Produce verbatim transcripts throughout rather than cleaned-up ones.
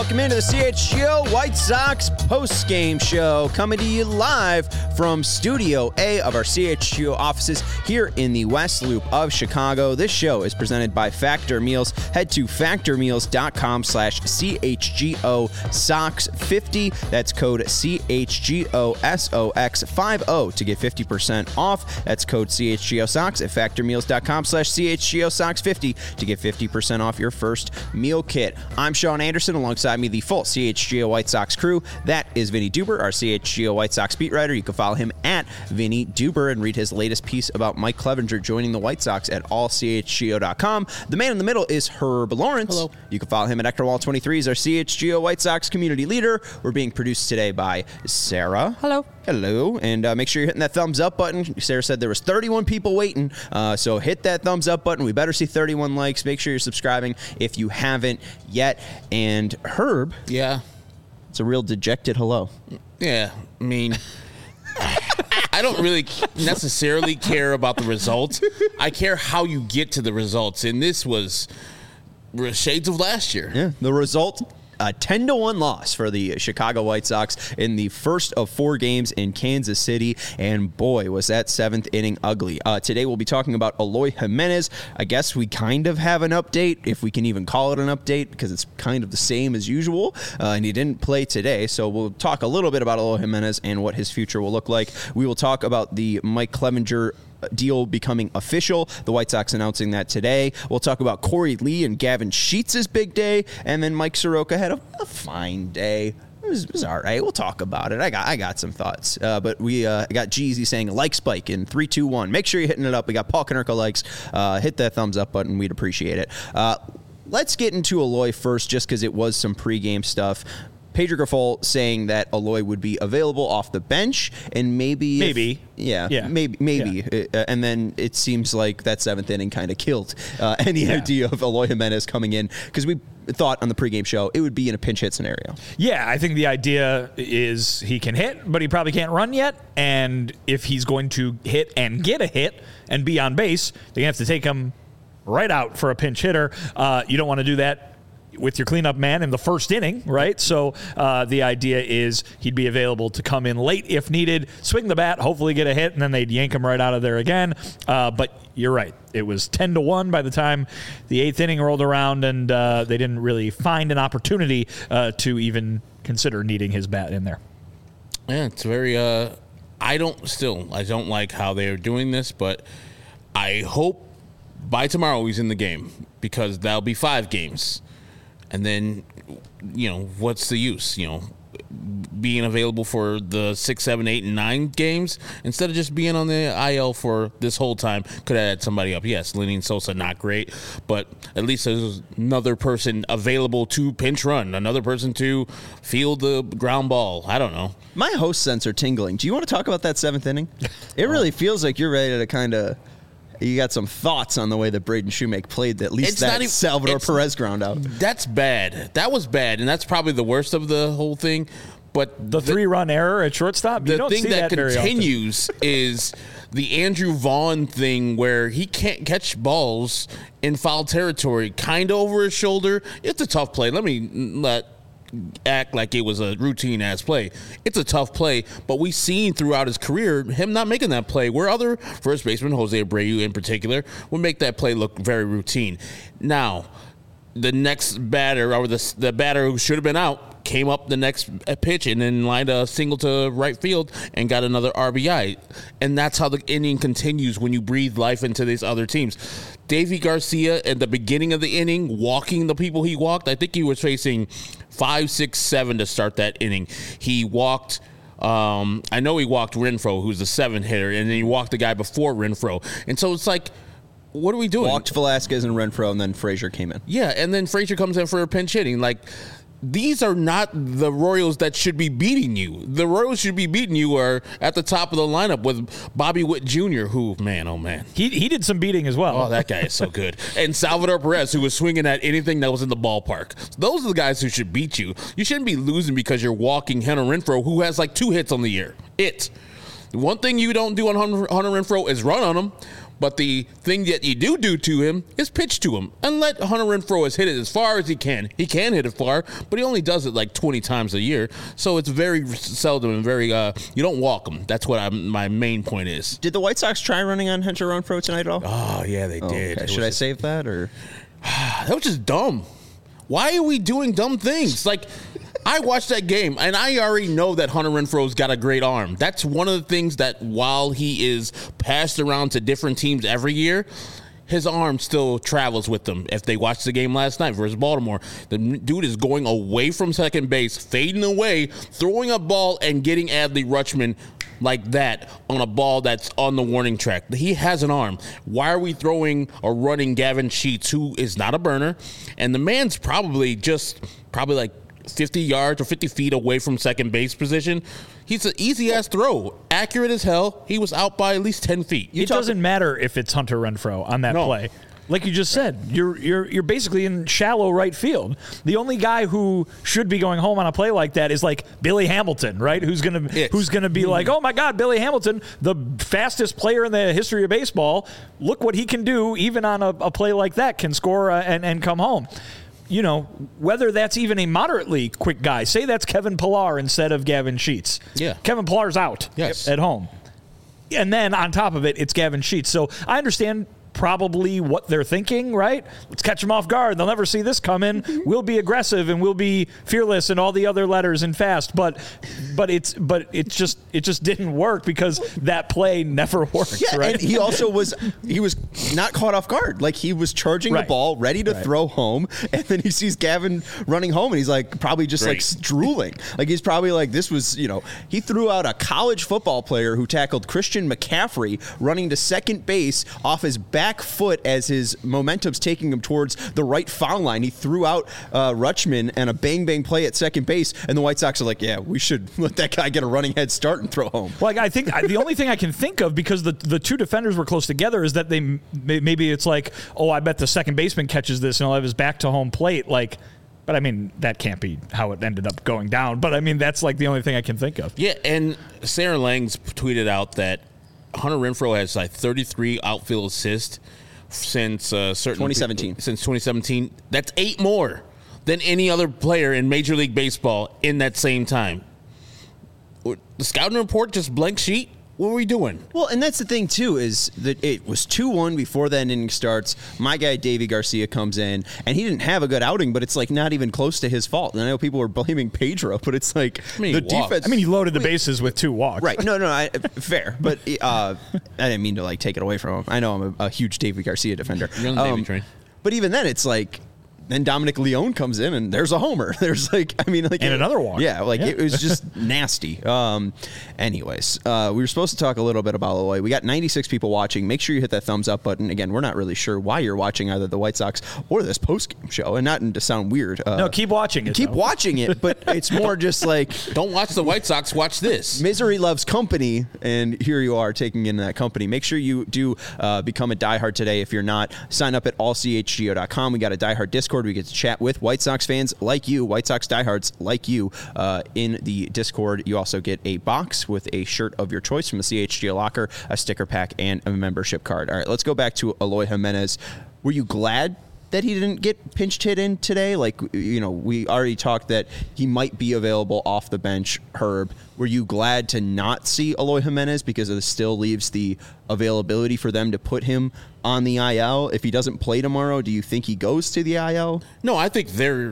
Welcome into the C H G O White Sox post-game show, coming to you live from Studio A of our C H G O offices here in the West Loop of Chicago. This show is presented by Factor Meals. Head to factormeals.com slash CHGO Sox 50. That's code C H G O S O X 50 to get fifty percent off. That's code C H G O Sox at factormeals.com slash CHGO Sox 50 to get fifty percent off your first meal kit. I'm Sean Anderson. Alongside me, the full C H G O White Sox crew. That is Vinny Duber, our C H G O White Sox beat writer. You can follow him at Vinny Duber and read his latest piece about Mike Clevenger joining the White Sox at all C H G O dot com. The man in the middle is Herb Lawrence. Hello. You can follow him at Ectorwall twenty-three. He's our C H G O White Sox community leader. We're being produced today by Sarah. Hello. Hello. And uh, make sure you're hitting that thumbs up button. Sarah said there was thirty-one people waiting, uh, so hit that thumbs up button. We better see thirty-one likes. Make sure you're subscribing if you haven't yet. And Herb. Yeah. It's a real dejected hello. Yeah. I mean, I don't really necessarily care about the results. I care how you get to the results. And this was shades of last year. Yeah. The result, a ten to one loss for the Chicago White Sox in the first of four games in Kansas City. And boy, was that seventh inning ugly. Uh, today we'll be talking about Eloy Jimenez. I guess we kind of have an update, if we can even call it an update, because it's kind of the same as usual. Uh, and he didn't play today. So we'll talk a little bit about Eloy Jimenez and what his future will look like. We will talk about the Mike Clevenger deal becoming official. The White Sox announcing that today. We'll talk about Corey Lee and Gavin Sheets' big day, and then Mike Soroka had a, a fine day. It was, it was all right. We'll talk about it. I got I got some thoughts. Uh, but we uh, got Jeezy saying like spike in three, two, one. Make sure you're hitting it up. We got Paul Konerko likes. Uh, hit that thumbs up button. We'd appreciate it. Uh, let's get into Eloy first, just because it was some pregame stuff. Pedro Grifol saying that Eloy would be available off the bench, and maybe, maybe, if, yeah, yeah, maybe, maybe, yeah. Uh, and then it seems like that seventh inning kind of killed uh, any yeah. idea of Eloy Jimenez coming in, because we thought on the pregame show it would be in a pinch hit scenario. Yeah, I think the idea is he can hit, but he probably can't run yet, and if he's going to hit and get a hit and be on base, they have to take him right out for a pinch hitter. Uh, you don't want to do that with your cleanup man in the first inning, right? So uh, the idea is he'd be available to come in late if needed, swing the bat, hopefully get a hit, and then they'd yank him right out of there again. Uh, but you're right. It was ten to one by the time the eighth inning rolled around, and uh, they didn't really find an opportunity uh, to even consider needing his bat in there. Yeah, it's very, uh, I don't still, I don't like how they are doing this, but I hope by tomorrow he's in the game, because that'll be five games. And then, you know, what's the use, you know, being available for the six, seven, eight, and nine games instead of just being on the I L for this whole time? Could have had somebody up. Yes, Lenny Sosa, not great, but at least there's another person available to pinch run, another person to field the ground ball. I don't know. My host sense are tingling. Do you want to talk about that seventh inning? It really feels like you're ready to kind of... You got some thoughts on the way that Braden Shoemake played, at least it's that even, Salvador Perez ground out. That's bad. That was bad, and that's probably the worst of the whole thing. But the, the three-run error at shortstop, you the don't thing see that, that very continues is the Andrew Vaughn thing, where he can't catch balls in foul territory, kind of over his shoulder. It's a tough play. Let me let act like it was a routine ass play. It's a tough play, but we've seen throughout his career him not making that play, where other first baseman, Jose Abreu in particular, would make that play look very routine. Now, the next batter, or the the batter who should have been out, came up the next pitch and then lined a single to right field and got another R B I. And that's how the inning continues when you breathe life into these other teams. Davy Garcia at the beginning of the inning, walking the people he walked, I think he was facing five, six, seven to start that inning. He walked... Um, I know he walked Renfroe, who's the seventh hitter, and then he walked the guy before Renfroe. And so it's like, what are we doing? Walked Velasquez and Renfroe, and then Frazier came in. Yeah, and then Frazier comes in for a pinch hitting. Like, these are not the Royals that should be beating you. The Royals should be beating you are at the top of the lineup with Bobby Witt Junior, who, man, oh, man. He he did some beating as well. Oh, that guy is so good. And Salvador Perez, who was swinging at anything that was in the ballpark. Those are the guys who should beat you. You shouldn't be losing because you're walking Hunter Renfroe, who has like two hits on the year. It. One thing you don't do on Hunter Renfroe is run on him. But the thing that you do do to him is pitch to him and let Hunter Renfroe hit it as far as he can. He can hit it far, but he only does it like twenty times a year. So it's very seldom and very, uh, you don't walk him. That's what I'm, my main point is. Did the White Sox try running on Hunter Renfroe tonight at all? Oh, yeah, they Oh, did. okay. It Should I was- save that or? That was just dumb. Why are we doing dumb things? Like, I watched that game, and I already know that Hunter Renfroe's got a great arm. That's one of the things that while he is passed around to different teams every year, his arm still travels with them. If they watched the game last night versus Baltimore, the dude is going away from second base, fading away, throwing a ball, and getting Adley Rutschman like that on a ball that's on the warning track. He has an arm. Why are we throwing or running Gavin Sheets, who is not a burner, and the man's probably just probably like fifty yards or fifty feet away from second base position? He's an easy-ass throw. Accurate as hell. He was out by at least ten feet. It doesn't matter if it's Hunter Renfroe on that No. play. Like you just said, you're you're you're basically in shallow right field. The only guy who should be going home on a play like that is like Billy Hamilton, right? Who's gonna Yes. who's gonna be like, oh my God, Billy Hamilton, the fastest player in the history of baseball. Look what he can do, even on a, a play like that, can score uh, and and come home. You know, whether that's even a moderately quick guy. Say that's Kevin Pillar instead of Gavin Sheets. Yeah. Kevin Pillar's out Yes. at home. And then on top of it, it's Gavin Sheets. So I understand probably what they're thinking, right? Let's catch them off guard. They'll never see this coming. We'll be aggressive and we'll be fearless and all the other letters and fast. But but it's but it just it just didn't work because that play never worked. Yeah, right? and he also was he was not caught off guard. Like he was charging Right. the ball, ready to Right. throw home, and then he sees Gavin running home, and he's like probably just Great. like drooling. Like he's probably like this was you know he threw out a college football player who tackled Christian McCaffrey running to second base off his back foot as his momentum's taking him towards the right foul line. He threw out uh, Rutschman and a bang bang play at second base, and the White Sox are like, yeah, we should let that guy get a running head start and throw home. Like I think I, the only thing I can think of, because the the two defenders were close together, is that they may- maybe it's like, oh, I bet the second baseman catches this and he'll have his back to home plate. Like, but I mean that can't be how it ended up going down. But I mean that's like the only thing I can think of. Yeah, and Sarah Langs tweeted out that Hunter Renfroe has like thirty-three outfield assists since uh, certain twenty seventeen. Since twenty seventeen, that's eight more than any other player in Major League Baseball in that same time. The scouting report just blank sheet. What are we doing? Well, and that's the thing, too, is that it was two one before that inning starts. My guy, Davey Garcia, comes in, and he didn't have a good outing, but it's, like, not even close to his fault. And I know people were blaming Pedro, but it's like I mean, the he walked. defense... I mean, he loaded the bases with two walks. Right. No, no, I, fair. But uh, I didn't mean to, like, take it away from him. I know I'm a, a huge Davey Garcia defender. You're on the Davey train. But even then, it's like... Then Dominic Leone comes in, and there's a homer. There's like, I mean, like And it- another walk. Yeah, like Yeah. it was just nasty. Um, anyways, uh, we were supposed to talk a little bit about Eloy. We got ninety-six people watching. Make sure you hit that thumbs up button. Again, we're not really sure why you're watching either the White Sox or this post-game show, and not to sound weird. Uh, No, keep watching it. keep though. watching it, but it's more just like Don't watch the White Sox. Watch this. misery loves company, and here you are taking in that company. Make sure you do uh, become a diehard today. If you're not, sign up at all c h g o dot com. We got a diehard Discord. We get to chat with White Sox fans like you, White Sox diehards like you, uh, in the Discord. You also get a box with a shirt of your choice from the C H G O locker, a sticker pack, and a membership card. All right, let's go back to Eloy Jimenez. Were you glad that he didn't get pinched hit in today? Like, you know, we already talked that he might be available off the bench, Herb. Were you glad to not see Eloy Jimenez because it still leaves the availability for them to put him on the I L? If he doesn't play tomorrow, do you think he goes to the I L? No, I think their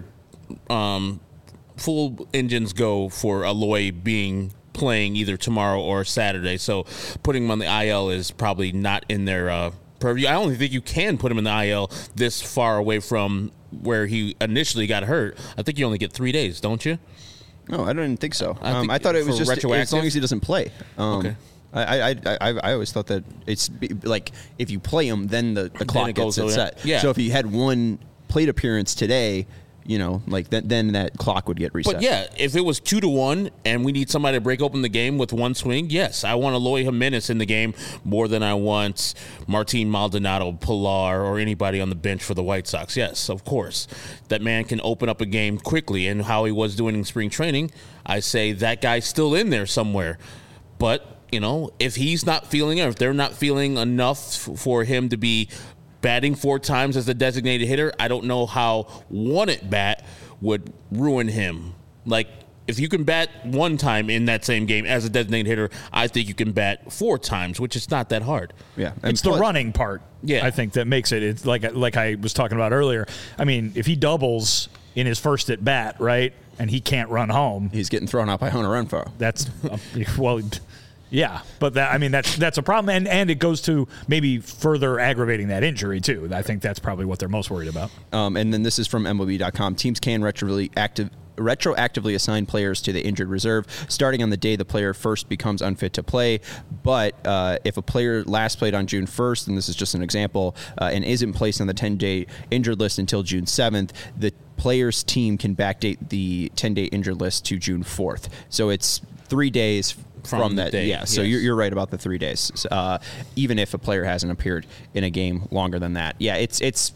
um, full engines go for Eloy being playing either tomorrow or Saturday. So putting him on the I L is probably not in their uh, purview. I only think you can put him in the I L this far away from where he initially got hurt. I think you only get three days, don't you? No, I didn't think so. I Um, think I thought it was for just as retroactive? long as he doesn't play. Um, Okay. I, I, I, I always thought that it's be- like if you play him, then the, the clock it gets goes it over. set. Yeah. So if he had one plate appearance today, you know, like that, then that clock would get reset. But yeah, if it was two to one and we need somebody to break open the game with one swing, yes, I want Eloy Jimenez in the game more than I want Martin Maldonado, Pilar, or anybody on the bench for the White Sox. Yes, of course. That man can open up a game quickly, and how he was doing in spring training, I say that guy's still in there somewhere. But you know, if he's not feeling it, if they're not feeling enough f- for him to be batting four times as a designated hitter, I don't know how one at bat would ruin him. Like, if you can bat one time in that same game as a designated hitter, I think you can bat four times, which is not that hard. Yeah, and it's plus, the running part. Yeah, I think that makes it. It's like like I was talking about earlier. I mean, if he doubles in his first at bat, right, and he can't run home, he's getting thrown out by Hunter Renfroe. That's uh, well. Yeah, but that, I mean that's that's a problem, and, and it goes to maybe further aggravating that injury too. I think that's probably what they're most worried about. Um, and then this is from M L B dot com. Teams can retroactively active. retroactively assign players to the injured reserve starting on the day the player first becomes unfit to play. But uh, if a player last played on June first, and this is just an example, uh, and isn't placed on the ten-day injured list until June seventh, the player's team can backdate the ten-day injured list to June fourth. So it's three days from, from that. Day, yeah, so yes. you're, you're right about the three days, uh, even if a player hasn't appeared in a game longer than that. Yeah, it's it's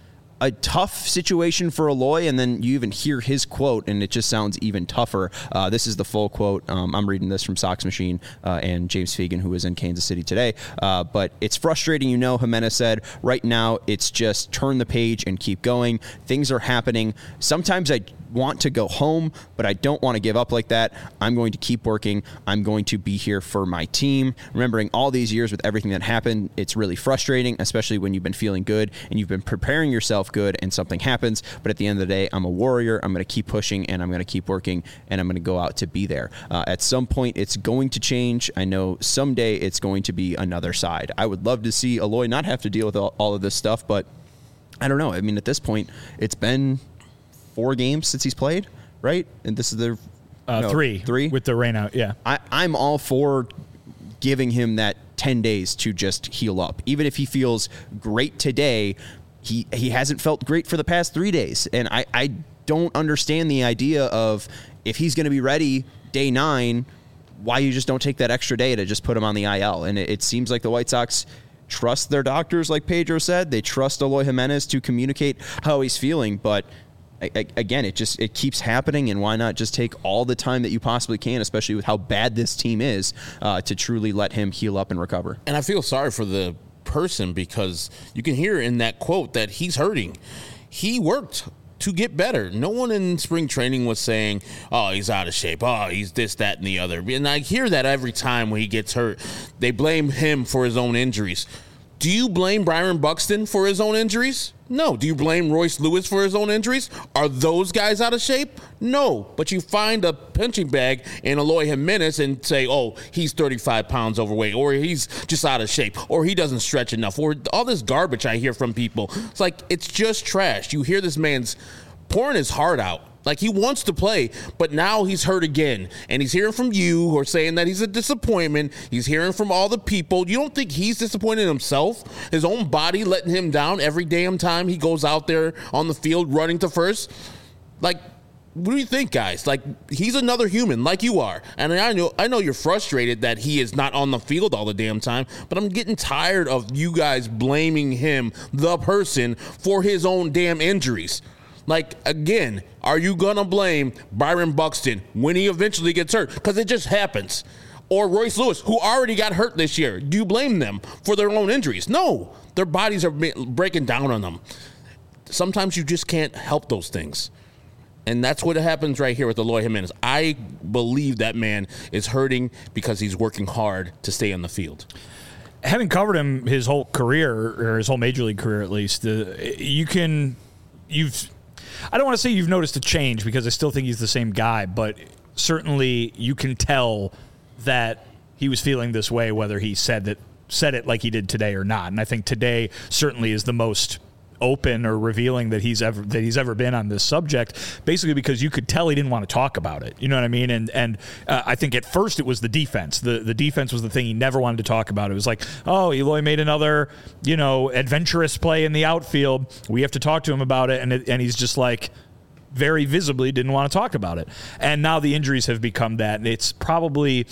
a tough situation for Eloy, and then you even hear his quote, and it just sounds even tougher. Uh, this is the full quote. Um, I'm reading this from Sox Machine uh, and James Fegan, who is in Kansas City today. Uh, but it's frustrating, you know, Jimenez said. Right now, it's just turn the page and keep going. Things are happening. Sometimes I want to go home, but I don't want to give up like that. I'm going to keep working. I'm going to be here for my team. Remembering all these years with everything that happened, it's really frustrating, especially when you've been feeling good and you've been preparing yourself good and something happens. But at the end of the day, I'm a warrior. I'm going to keep pushing and I'm going to keep working and I'm going to go out to be there. Uh, at some point, it's going to change. I know someday it's going to be another side. I would love to see Eloy not have to deal with all, all of this stuff, but I don't know. I mean, at this point, it's been four games since he's played, right? And this is their uh, no, three, three with the rain out. Yeah, I, I'm all for giving him that ten days to just heal up. Even if he feels great today, he he hasn't felt great for the past three days, and I I don't understand the idea of if he's going to be ready day nine, why you just don't take that extra day to just put him on the I L. And it, it seems like the White Sox trust their doctors, like Pedro said. They trust Eloy Jimenez to communicate how he's feeling, but I, I, again, it just it keeps happening, and why not just take all the time that you possibly can, especially with how bad this team is, uh, to truly let him heal up and recover. And I feel sorry for the person because you can hear in that quote that he's hurting. He worked to get better. No one in spring training was saying, oh, he's out of shape. Oh, he's this, that, and the other. And I hear that every time when he gets hurt. They blame him for his own injuries. Do you blame Byron Buxton for his own injuries? No. Do you blame Royce Lewis for his own injuries? Are those guys out of shape? No. But you find a punching bag in Eloy Jimenez and say, oh, he's thirty-five pounds overweight, or he's just out of shape, or he doesn't stretch enough, or all this garbage I hear from people. It's like, it's just trash. You hear this man's pouring his heart out. Like, he wants to play, but now he's hurt again. And he's hearing from you who are saying that he's a disappointment. He's hearing from all the people. You don't think he's disappointed in himself? His own body letting him down every damn time he goes out there on the field running to first? Like, what do you think, guys? Like, he's another human like you are. And I know I know you're frustrated that he is not on the field all the damn time, but I'm getting tired of you guys blaming him, the person, for his own damn injuries. Like, again, are you going to blame Byron Buxton when he eventually gets hurt? Because it just happens. Or Royce Lewis, who already got hurt this year. Do you blame them for their own injuries? No. Their bodies are breaking down on them. Sometimes you just can't help those things. And that's what happens right here with Eloy Jimenez. I believe that man is hurting because he's working hard to stay on the field. Having covered him his whole career, or his whole major league career at least, uh, you can, you've, I don't want to say you've noticed a change because I still think he's the same guy, but certainly you can tell that he was feeling this way whether he said that said it like he did today or not. And I think today certainly is the most open or revealing that he's ever that he's ever been on this subject, basically because you could tell he didn't want to talk about it. You know what I mean? And and uh, I think at first it was the defense. The the defense was the thing he never wanted to talk about. It was like, oh, Eloy made another, you know, adventurous play in the outfield. We have to talk to him about it. And it, and he's just like, very visibly didn't want to talk about it. And now the injuries have become that. And it's probably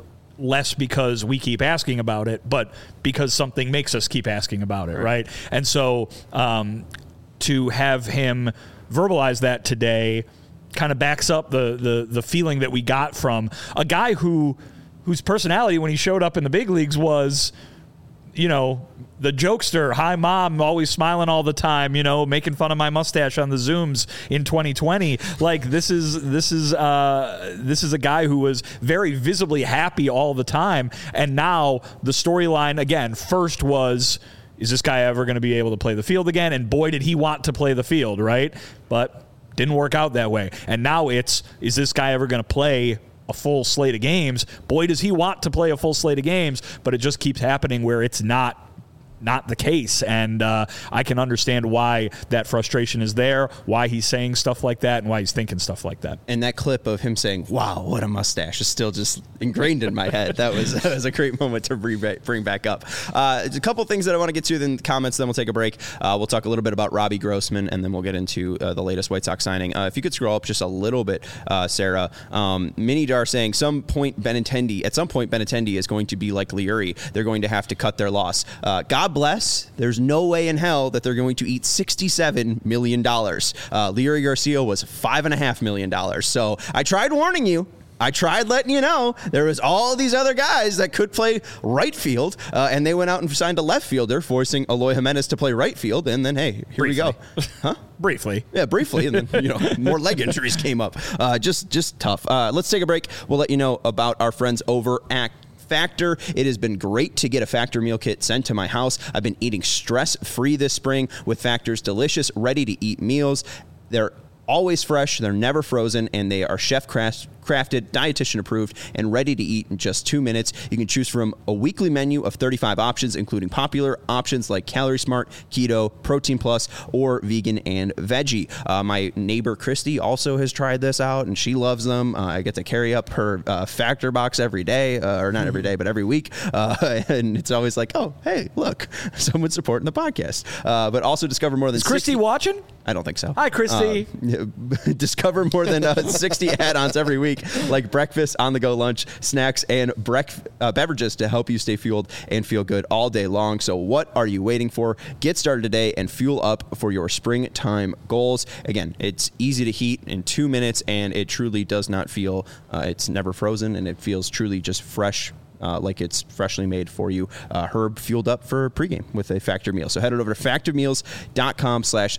less because we keep asking about it, but because something makes us keep asking about it, right? right? And so um, to have him verbalize that today kind of backs up the, the the feeling that we got from a guy who whose personality when he showed up in the big leagues was, you know, the jokester, hi mom, always smiling all the time, you know, making fun of my mustache on the Zooms in twenty twenty. Like this is this is uh, this is a guy who was very visibly happy all the time, and now the storyline again first was, is this guy ever going to be able to play the field again? And boy, did he want to play the field, right? But didn't work out that way. And now it's, is this guy ever going to play a full slate of games? Boy, does he want to play a full slate of games, but it just keeps happening where it's not not the case. And uh, I can understand why that frustration is there, why he's saying stuff like that, and why he's thinking stuff like that. And that clip of him saying, wow, what a mustache, is still just ingrained in my head. That was, that was a great moment to bring back up. Uh, a couple things that I want to get to in the comments, then we'll take a break. Uh, we'll talk a little bit about Robbie Grossman, and then we'll get into uh, the latest White Sox signing. Uh, if you could scroll up just a little bit, uh, Sarah. Um, Minidar saying, some point Benintendi, at some point Benintendi is going to be like Leury. They're going to have to cut their loss. Uh, God bless. There's no way in hell that they're going to eat sixty-seven million dollars. Uh, Leury Garcia was five and a half million dollars. So I tried warning you. I tried letting you know there was all these other guys that could play right field, uh, and they went out and signed a left fielder, forcing Eloy Jimenez to play right field. And then, hey, here briefly. we go. Huh? Briefly. Yeah, briefly. And then, you know, more leg injuries came up. Uh, just, just tough. Uh, let's take a break. We'll let you know about our friends over at Factor. It has been great to get a Factor meal kit sent to my house. I've been eating stress-free this spring with Factor's delicious, ready-to-eat meals. They're always fresh, they're never frozen, and they are chef-crafted, dietitian approved, and ready to eat in just two minutes. You can choose from a weekly menu of thirty-five options, including popular options like Calorie Smart, Keto, Protein Plus, or Vegan and Veggie. Uh, my neighbor Christy also has tried this out, and she loves them. Uh, I get to carry up her uh, Factor box every day, uh, or not every day, but every week, uh, and it's always like, oh, hey, look, someone's supporting the podcast. Uh, but also discover more than Is Christy sixty watching? I don't think so. Hi, Christy. Uh, discover more than uh, sixty add-ons every week, like breakfast, on-the-go lunch, snacks, and brec- uh, beverages to help you stay fueled and feel good all day long. So what are you waiting for? Get started today and fuel up for your springtime goals. Again, it's easy to heat in two minutes, and it truly does not feel, uh, it's never frozen, and it feels truly just fresh. Uh, like it's freshly made for you. Uh, Herb fueled up for pregame with a Factor meal. So head on over to factormeals.com slash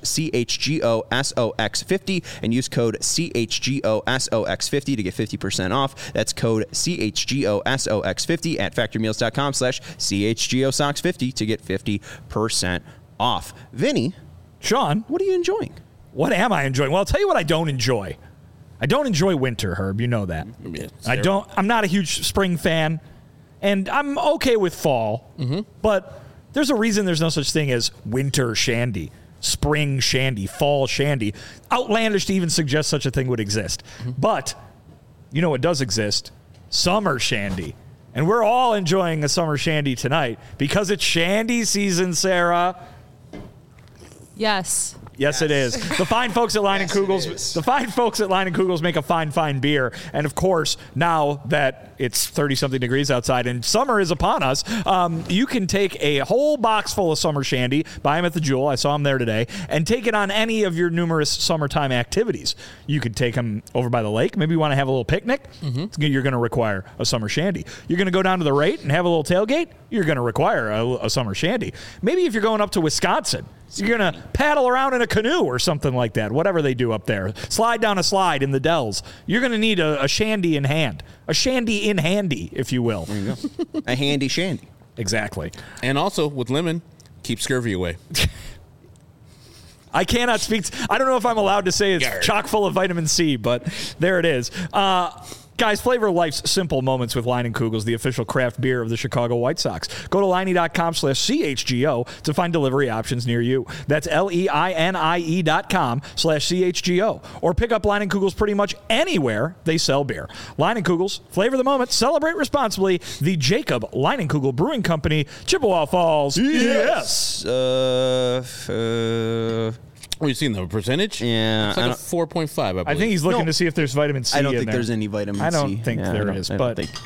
C-H-G-O-S-O-X-50 and use code C H G O S O X fifty to get fifty percent off. That's code C H G O S O X fifty at factormeals.com slash C H G O S O X fifty to get fifty percent off. Vinny. Sean. What are you enjoying? What am I enjoying? Well, I'll tell you what I don't enjoy. I don't enjoy winter, Herb. You know that. Yeah, I don't. I'm not a huge spring fan. And I'm okay with fall, mm-hmm. but there's a reason there's no such thing as winter shandy, spring shandy, fall shandy. Outlandish to even suggest such a thing would exist. Mm-hmm. But you know what does exist? Summer shandy. And we're all enjoying a summer shandy tonight because it's shandy season, Sarah. Yes. Yes, it is. The fine folks at Line yes, and Kugels, the fine folks at Line and Kugels make a fine, fine beer. And of course, now that it's thirty something degrees outside and summer is upon us, um, you can take a whole box full of summer shandy, buy them at the Jewel. I saw them there today, and take it on any of your numerous summertime activities. You could take them over by the lake. Maybe you want to have a little picnic. Mm-hmm. You're going to require a summer shandy. You're going to go down to the Rate and have a little tailgate. You're going to require a, a summer shandy. Maybe if you're going up to Wisconsin, you're going to paddle around in a canoe or something like that, whatever they do up there. Slide down a slide in the Dells. You're going to need a, a shandy in hand. A shandy in handy, if you will. There you go. A handy shandy. Exactly. And also, with lemon, keep scurvy away. I cannot speak. To, I don't know if I'm allowed to say it's Yarr. chock full of vitamin C, but there it is. Uh, Guys, flavor life's simple moments with Line and Kugels, the official craft beer of the Chicago White Sox. Go to liney.com slash CHGO to find delivery options near you. That's L-E-I-N-I-E dot com slash C-H-G-O. Or pick up Line and Kugels pretty much anywhere they sell beer. Line and Kugels, flavor the moment, celebrate responsibly. The Jacob Line and Kugel Brewing Company, Chippewa Falls. Yes. yes. Uh, uh What have you seen, the percentage? Yeah. It's like a four point five, I believe. I think he's looking No, to see if there's vitamin C I don't in think there. there's any vitamin C. I don't think yeah, there don't, is, I but think.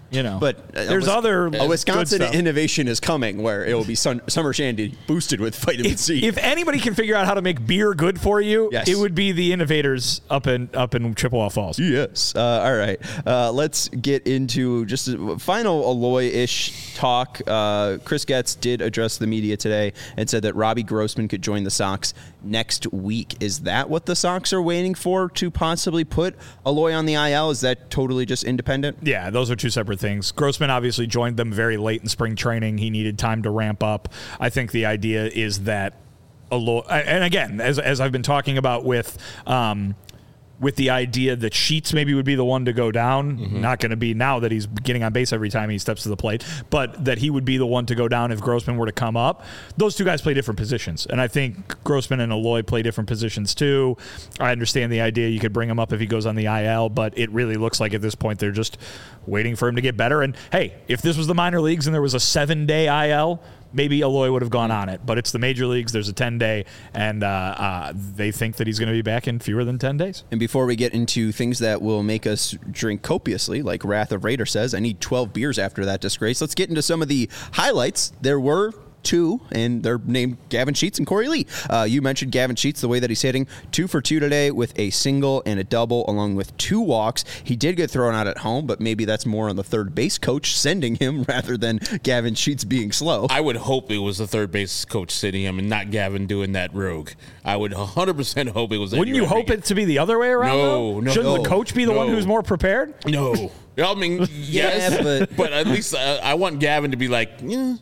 You know, but uh, there's Wis- other a Wisconsin good stuff. innovation is coming where it will be sun, summer shandy boosted with vitamin If, C. if anybody can figure out how to make beer good for you, Yes. it would be the innovators up in up in Chippewa Falls. Yes. Uh, all right. Uh, let's get into just a final Aloy-ish talk. Uh, Chris Getz did address the media today and said that Robbie Grossman could join the Sox next week. Is that what the Sox are waiting for to possibly put Aloy on the I L? Is that totally just independent? Yeah, those are two separate things. Grossman obviously joined them very late in spring training. He needed time to ramp up. I think the idea is that Aloy, and again, as as I've been talking about with um, with the idea that Sheets maybe would be the one to go down, mm-hmm. not going to be now that he's getting on base every time he steps to the plate, but that he would be the one to go down if Grossman were to come up. Those two guys play different positions, and I think Grossman and Aloy play different positions too. I understand the idea you could bring him up if he goes on the I L, but it really looks like at this point they're just waiting for him to get better. And hey, if this was the minor leagues and there was a seven-day I L, maybe Aloy would have gone on it, but it's the major leagues. There's a ten-day, and uh, uh, they think that he's going to be back in fewer than ten days. And before we get into things that will make us drink copiously, like Wrath of Raider says, I need twelve beers after that disgrace. Let's get into some of the highlights. There were two, and they're named Gavin Sheets and Corey Lee. Uh, you mentioned Gavin Sheets, the way that he's hitting, two for two today with a single and a double, along with two walks. He did get thrown out at home, but maybe that's more on the third base coach sending him rather than Gavin Sheets being slow. I would hope it was the third base coach sitting him and not Gavin doing that rogue. I would one hundred percent hope it was. Wouldn't you hope it to be the other way around? No, though? no. Shouldn't the coach be the no. one who's more prepared? No. I mean, yes, Yeah, but- but at least uh, I want Gavin to be like, yeah.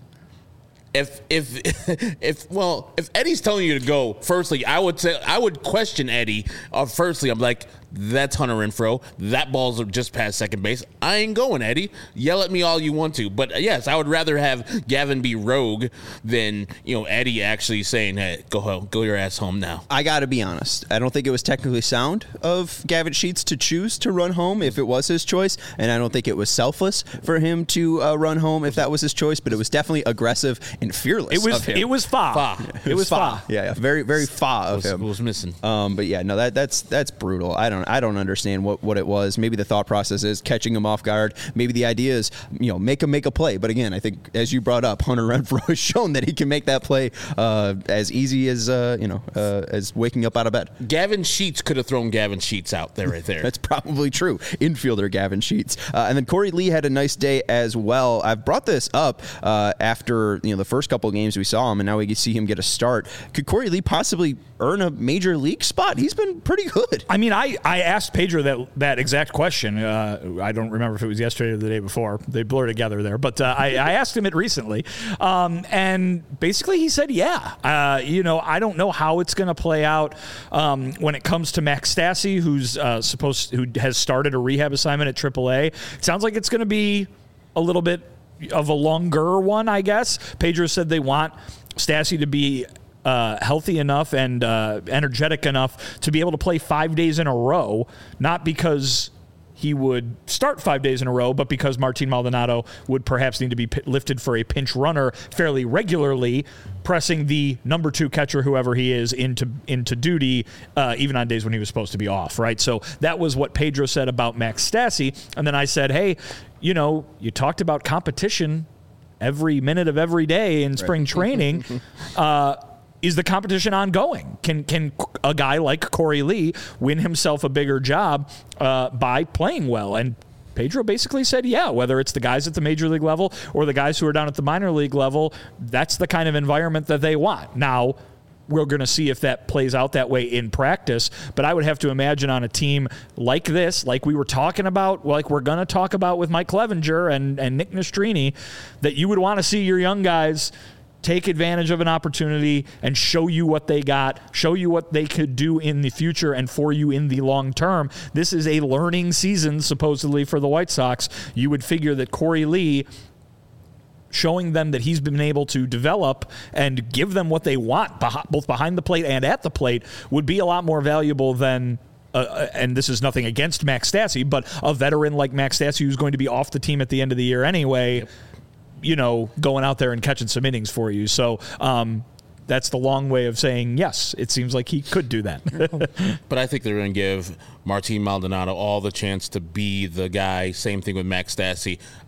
If if if well, if Eddie's telling you to go, firstly, I would say I would question Eddie. Uh, firstly, I'm like, that's Hunter Renfroe. That ball's just past second base. I ain't going, Eddie. Yell at me all you want to, but yes, I would rather have Gavin be rogue than you know Eddie actually saying, "Hey, go home, go your ass home now." I got to be honest. I don't think it was technically sound of Gavin Sheets to choose to run home if it was his choice, and I don't think it was selfless for him to uh, run home if that was his choice. But it was definitely aggressive and fearless. It was of him. it was fa. Fa. It, was fa. Yeah, yeah, very very fa of was, him. was missing. Um, but yeah, no, that that's that's brutal. I don't I don't understand what, what it was. Maybe the thought process is catching him off guard. Maybe the idea is you know make him make a play. But again, I think as you brought up, Hunter Renfroe has shown that he can make that play uh, as easy as uh, you know uh, as waking up out of bed. Gavin Sheets could have thrown Gavin Sheets out there right there. That's probably true. Infielder Gavin Sheets. Uh, and then Corey Lee had a nice day as well. I've brought this up uh, after you know the first couple of games we saw him, and now we can see him get a start. Could Corey Lee possibly earn a major league spot? He's been pretty good. I mean, I, I asked Pedro that that exact question. Uh, I don't remember if it was yesterday or the day before. They blur together there. But uh, I, I asked him it recently. Um, and basically he said, yeah. Uh, you know, I don't know how it's going to play out um, when it comes to Max Stassi, who's uh, supposed who has started a rehab assignment at triple A. It sounds like it's going to be a little bit of a longer one, I guess. Pedro said they want Stassi to be Uh, healthy enough and uh, energetic enough to be able to play five days in a row, not because he would start five days in a row, but because Martin Maldonado would perhaps need to be p- lifted for a pinch runner fairly regularly, pressing the number two catcher, whoever he is, into into duty, uh, even on days when he was supposed to be off, right? So that was what Pedro said about Max Stassi. And then I said, hey, you know, you talked about competition every minute of every day in spring right. training. uh, Is the competition ongoing? Can can a guy like Corey Lee win himself a bigger job uh, by playing well? And Pedro basically said, yeah, whether it's the guys at the major league level or the guys who are down at the minor league level, that's the kind of environment that they want. Now, we're going to see if that plays out that way in practice, but I would have to imagine on a team like this, like we were talking about, like we're going to talk about with Mike Clevenger and, and Nick Nastrini, that you would want to see your young guys take advantage of an opportunity and show you what they got, show you what they could do in the future and for you in the long term. This is a learning season, supposedly, for the White Sox. You would figure that Corey Lee, showing them that he's been able to develop and give them what they want, both behind the plate and at the plate, would be a lot more valuable than Uh, and this is nothing against Max Stassi, but a veteran like Max Stassi who's going to be off the team at the end of the year anyway, yep. you know, going out there and catching some innings for you. So um, that's the long way of saying, yes, it seems like he could do that. But I think they're going to give Martin Maldonado all the chance to be the guy. Same thing with Max Stassi.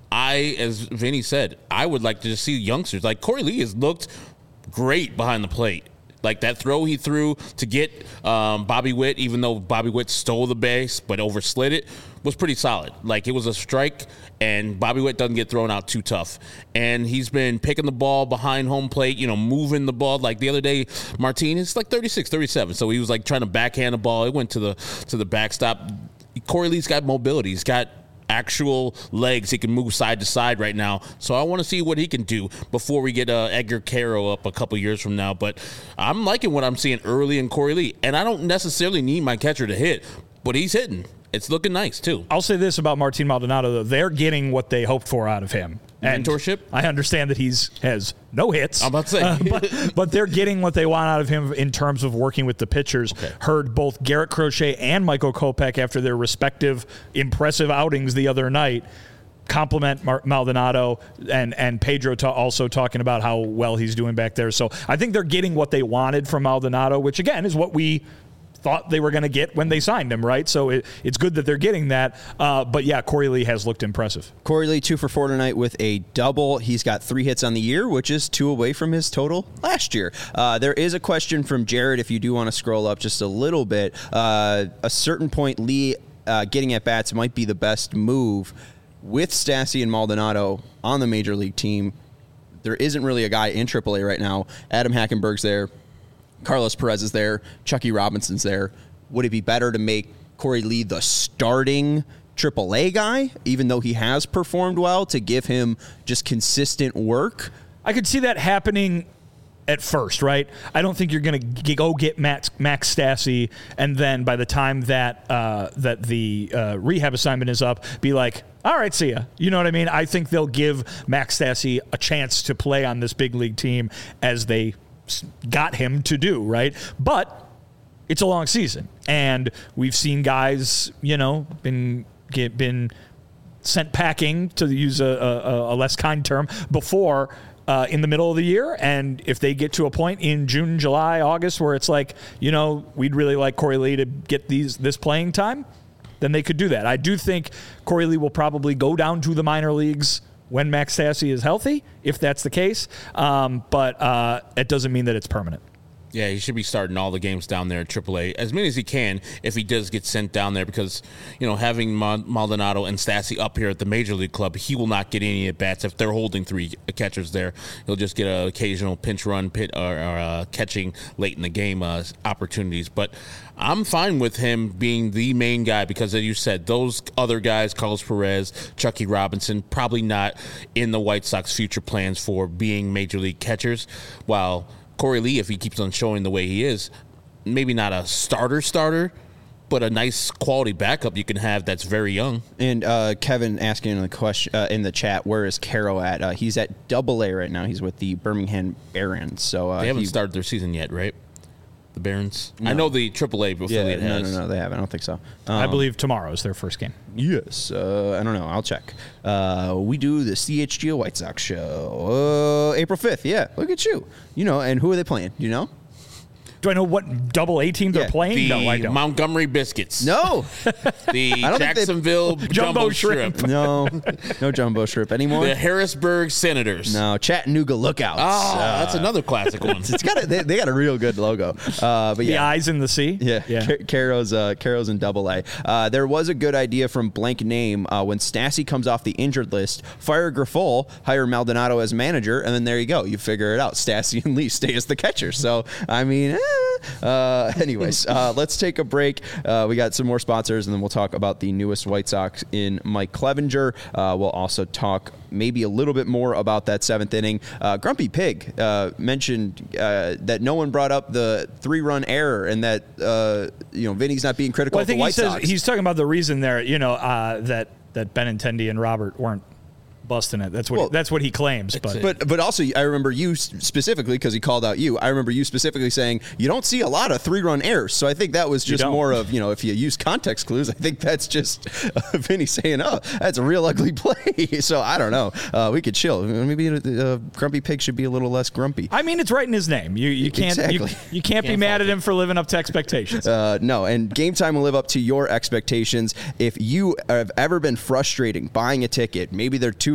I, as Vinny said, I would like to just see youngsters. Like Corey Lee has looked great behind the plate. Like that throw he threw to get um, Bobby Witt, even though Bobby Witt stole the base but overslid it, was pretty solid. Like it was a strike, and Bobby Witt doesn't get thrown out too tough. And he's been picking the ball behind home plate, you know, moving the ball. Like the other day, Martinez, like thirty-six, thirty-seven. So he was like trying to backhand the ball. It went to the to the backstop. Corey Lee's got mobility. He's got actual legs. He can move side to side right now. So I want to see what he can do before we get uh, Edgar Caro up a couple years from now. But I'm liking what I'm seeing early in Corey Lee. And I don't necessarily need my catcher to hit, but he's hitting. It's looking nice, too. I'll say this about Martin Maldonado, though. They're getting what they hoped for out of him. And mentorship? I understand that he's has no hits. I'm about to say. uh, but, but they're getting what they want out of him in terms of working with the pitchers. Okay. Heard both Garrett Crochet and Michael Kopech after their respective impressive outings the other night compliment Mar- Maldonado and, and Pedro ta- also talking about how well he's doing back there. So I think they're getting what they wanted from Maldonado, which, again, is what we thought they were going to get when they signed him, right? So it, it's good that they're getting that. Uh, but, yeah, Corey Lee has looked impressive. Corey Lee, two for four tonight with a double. He's got three hits on the year, which is two away from his total last year. Uh, there is a question from Jared, if you do want to scroll up just a little bit. Uh, a certain point, Lee uh, getting at bats might be the best move. With Stassi and Maldonado on the Major League team, there isn't really a guy in triple A right now. Adam Hackenberg's there. Carlos Perez is there. Chucky Robinson's there. Would it be better to make Corey Lee the starting triple A guy, even though he has performed well, to give him just consistent work? I could see that happening at first, right? I don't think you're going to go get Max, Max Stassi, and then by the time that uh, that the uh, rehab assignment is up, be like, all right, see ya. You know what I mean? I think they'll give Max Stassi a chance to play on this big league team as they got him to do, right? But it's a long season, and we've seen guys, you know, been get, been sent packing, to use a, a, a less kind term, before uh, in the middle of the year. And if they get to a point in June, July, August where it's like, you know, we'd really like Corey Lee to get these this playing time, then they could do that. I do think Corey Lee will probably go down to the minor leagues when Max Stassi is healthy, if that's the case. Um, but uh, it doesn't mean that it's permanent. Yeah, he should be starting all the games down there at triple A, as many as he can if he does get sent down there, because, you know, having Maldonado and Stassi up here at the Major League Club, he will not get any at-bats if they're holding three catchers there. He'll just get an occasional pinch run pit or, or uh, catching late in the game uh, opportunities. But I'm fine with him being the main guy because, as you said, those other guys, Carlos Perez, Chucky Robinson, probably not in the White Sox future plans for being Major League catchers, while Corey Lee, if he keeps on showing the way he is, maybe not a starter starter, but a nice quality backup you can have that's very young. And uh, Kevin asking in the question uh, in the chat, where is Caro at? Uh, he's at Double A right now. He's with the Birmingham Barons. So uh, they haven't he, started their season yet, right? The Barons. No. I know the triple A affiliate yeah, no, has. No, no, they haven't. I don't think so. Um, I believe tomorrow is their first game. Yes. Uh, I don't know. I'll check. Uh, we do the C H G O White Sox show uh, April fifth. Yeah. Look at you. You know, and who are they playing? Do you know? Do I know what double A team they're Yeah, playing? The No, I don't. Montgomery Biscuits. No. The I don't think they- Jacksonville Jumbo Jumbo Shrimp. Shrimp. No. No jumbo shrimp anymore. The Harrisburg Senators. No. Chattanooga Lookouts. Oh, Uh, that's another classic one. It's got a, they, they got a real good logo. Uh, but The yeah. eyes in the sea. Yeah, yeah. Car- Caro's uh, Caro's in Double A. Uh, there was a good idea from Blank Name uh, when Stassi comes off the injured list. Fire Grifol, hire Maldonado as manager, and then there you go. You figure it out. Stassi and Lee stay as the catcher. So I mean, eh. uh, anyways, uh, let's take a break. Uh, we got some more sponsors, and then we'll talk about the newest White Sox in Mike Clevenger. Uh, we'll also talk maybe a little bit more about that seventh inning. Uh, Grumpy Pig uh, mentioned uh, that no one brought up the three-run error, and that uh, you know Vinny's not being critical Well, I of the think White he says Sox. he's talking about the reason there, you know, uh, that that Benintendi and Robert weren't busting it. That's what Well, he, that's what he claims. But But but also, I remember you specifically, because he called out you, I remember you specifically saying you don't see a lot of three-run errors. So I think that was just don't. more of, you know, if you use context clues, I think that's just uh, Vinny saying, oh, that's a real ugly play. So I don't know. Uh, we could chill. Maybe uh, Grumpy Pig should be a little less grumpy. I mean, it's right in his name. You you can't you, Exactly. you can't be Can't mad fault at him for living up to expectations. Uh, no, and Game Time will live up to your expectations. If you have ever been frustrating buying a ticket, maybe they're too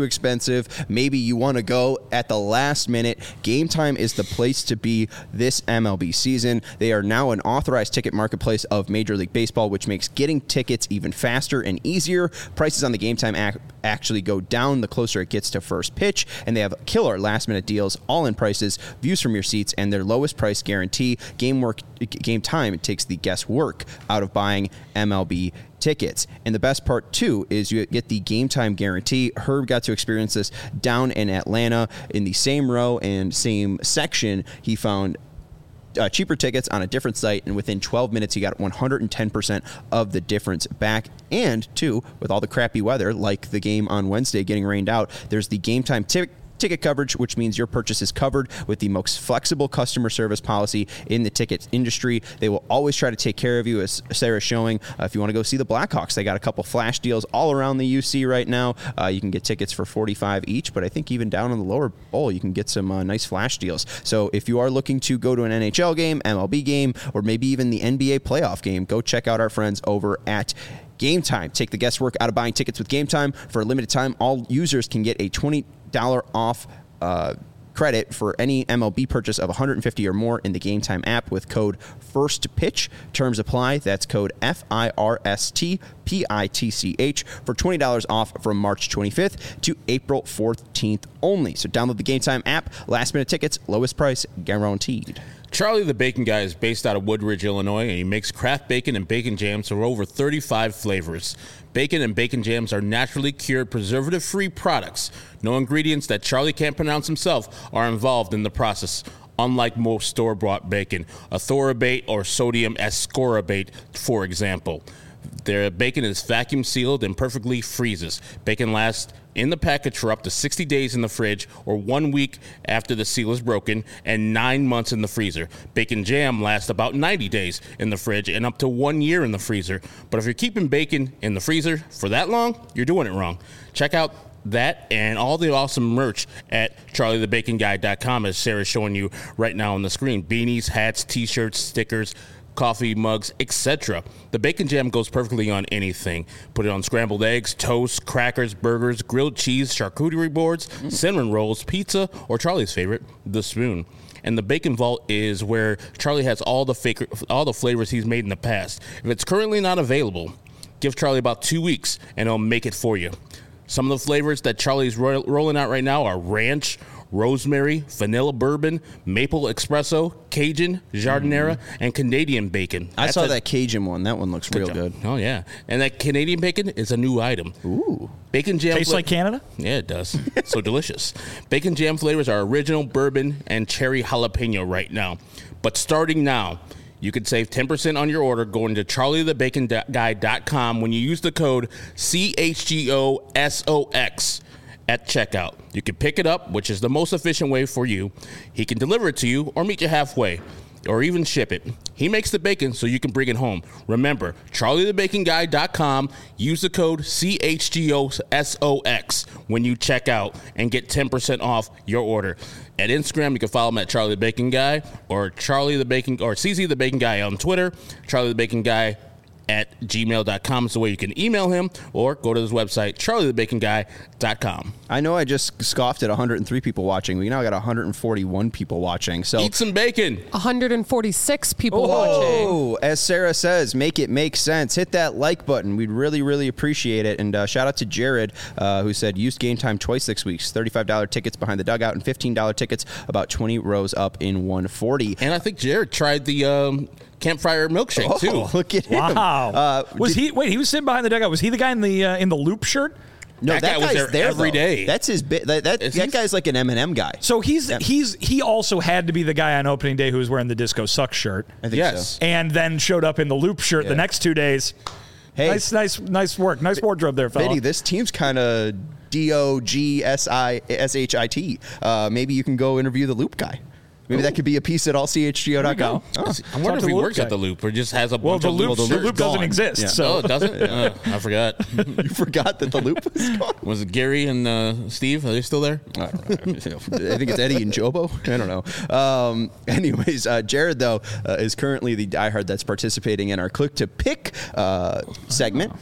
expensive. Maybe you want to go at the last minute. Game Time is the place to be this M L B season. They are now an authorized ticket marketplace of Major League Baseball, which makes getting tickets even faster and easier. Prices on the Game Time app actually go down the closer it gets to first pitch, and they have killer last minute deals, all in prices, views from your seats, and their lowest price guarantee. Game work, Game Time takes the guesswork out of buying M L B tickets. And the best part, too, is you get the Game Time guarantee. Herb got to experience this down in Atlanta in the same row and same section. He found Uh, cheaper tickets on a different site, and within twelve minutes, he got one hundred ten percent of the difference back. And, two, with all the crappy weather, like the game on Wednesday getting rained out, there's the Game Time ticket. Ticket coverage, which means your purchase is covered with the most flexible customer service policy in the ticket industry. They will always try to take care of you, as Sarah's showing. Uh, if you want to go see the Blackhawks, they got a couple flash deals all around the U C right now. Uh, you can get tickets for forty-five dollars each, but I think even down in the lower bowl, you can get some uh, nice flash deals. So if you are looking to go to an N H L game, M L B game, or maybe even the N B A playoff game, go check out our friends over at Game Time. Take the guesswork out of buying tickets with Game Time. For a limited time, all users can get a twenty dollars off uh, credit for any M L B purchase of one hundred fifty dollars or more in the Game Time app with code FIRSTPITCH. Terms apply. That's code F I R S T P I T C H for twenty dollars off from March twenty-fifth to April fourteenth only. So download the Game Time app. Last minute tickets, lowest price guaranteed. Charlie the Bacon Guy is based out of Woodridge, Illinois, and he makes craft bacon and bacon jams for over thirty-five flavors. Bacon and bacon jams are naturally cured, preservative-free products. No ingredients that Charlie can't pronounce himself are involved in the process, unlike most store-bought bacon, athorbate or sodium ascorbate, for example. Their bacon is vacuum sealed and perfectly freezes. Bacon lasts in the package for up to sixty days in the fridge, or one week after the seal is broken, and nine months in the freezer. Bacon jam lasts about ninety days in the fridge and up to one year in the freezer. But if you're keeping bacon in the freezer for that long, you're doing it wrong. Check out that and all the awesome merch at charlie the bacon guy dot com, as Sarah's showing you right now on the screen. Beanies, hats, t-shirts, stickers, coffee mugs, et cetera. The bacon jam goes perfectly on anything. Put it on scrambled eggs, toast, crackers, burgers, grilled cheese, charcuterie boards, mm. cinnamon rolls, pizza, or Charlie's favorite, the spoon. And the Bacon Vault is where Charlie has all the fake, all the flavors he's made in the past. If it's currently not available, give Charlie about two weeks and he'll make it for you. Some of the flavors that Charlie's ro- rolling out right now are ranch, rosemary, vanilla bourbon, maple espresso, Cajun, Jardinera, mm. and Canadian bacon. I That's saw a, that Cajun one. That one looks good real job. good. Oh, yeah. And that Canadian bacon is a new item. Ooh. Bacon jam. Tastes fla- like Canada? Yeah, it does. So delicious. Bacon jam flavors are original bourbon and cherry jalapeno right now. But starting now, you can save ten percent on your order going to charlie the bacon guy dot com when you use the code C H G O S O X at checkout. You can pick it up, which is the most efficient way for you. He can deliver it to you or meet you halfway, or even ship it. He makes the bacon so you can bring it home. Remember, charlie the bacon guy dot com. Use the code C H G O S O X when you check out and get ten percent off your order. At Instagram, you can follow him at Charlie the Bacon Guy, or Charlie the Bacon, or C Z the Bacon Guy on Twitter. Charlie the Bacon Guy at gmail dot com is the way you can email him, or go to his website, charlie the bacon guy dot com. I know I just scoffed at one hundred three people watching. We now got one hundred forty-one people watching. So eat some bacon. one hundred forty-six people oh, watching. As Sarah says, make it make sense. Hit that like button. We'd really, really appreciate it. And uh, shout out to Jared, uh, who said, used Game Time twice six weeks. thirty-five dollars tickets behind the dugout and fifteen dollars tickets about twenty rows up in one forty. And I think Jared tried the um, campfire milkshake, oh, too. Look at him. Wow. Uh, was did, he? Wait, he was sitting behind the dugout. Was he the guy in the uh, in the loop shirt? No, that, that guy was guy's there, there every though. day. That's his bit. That, that, that guy's like an M and M guy. So he's yeah. he's he also had to be the guy on opening day who was wearing the Disco Sucks shirt. I think yes. so. And then showed up in the loop shirt Yeah. the next two days. Hey, nice, nice, nice work. Nice wardrobe there, fella. Vinny, this team's kind of D O G S I S H I T. Uh, maybe you can go interview the Loop guy. Maybe Ooh. that could be a piece at all C H G O dot com. Oh. I wonder if he works guy. at the Loop or just has a well, bunch the of loop, little the loop doesn't exist. Yeah. So. Oh, it doesn't? uh, I forgot. You forgot that the Loop was gone? Was it Gary and uh, Steve? Are they still there? I don't know. I think it's Eddie and Jobo. I don't know. Um, anyways, uh, Jared, though, uh, is currently the diehard that's participating in our Click to Pick uh, segment.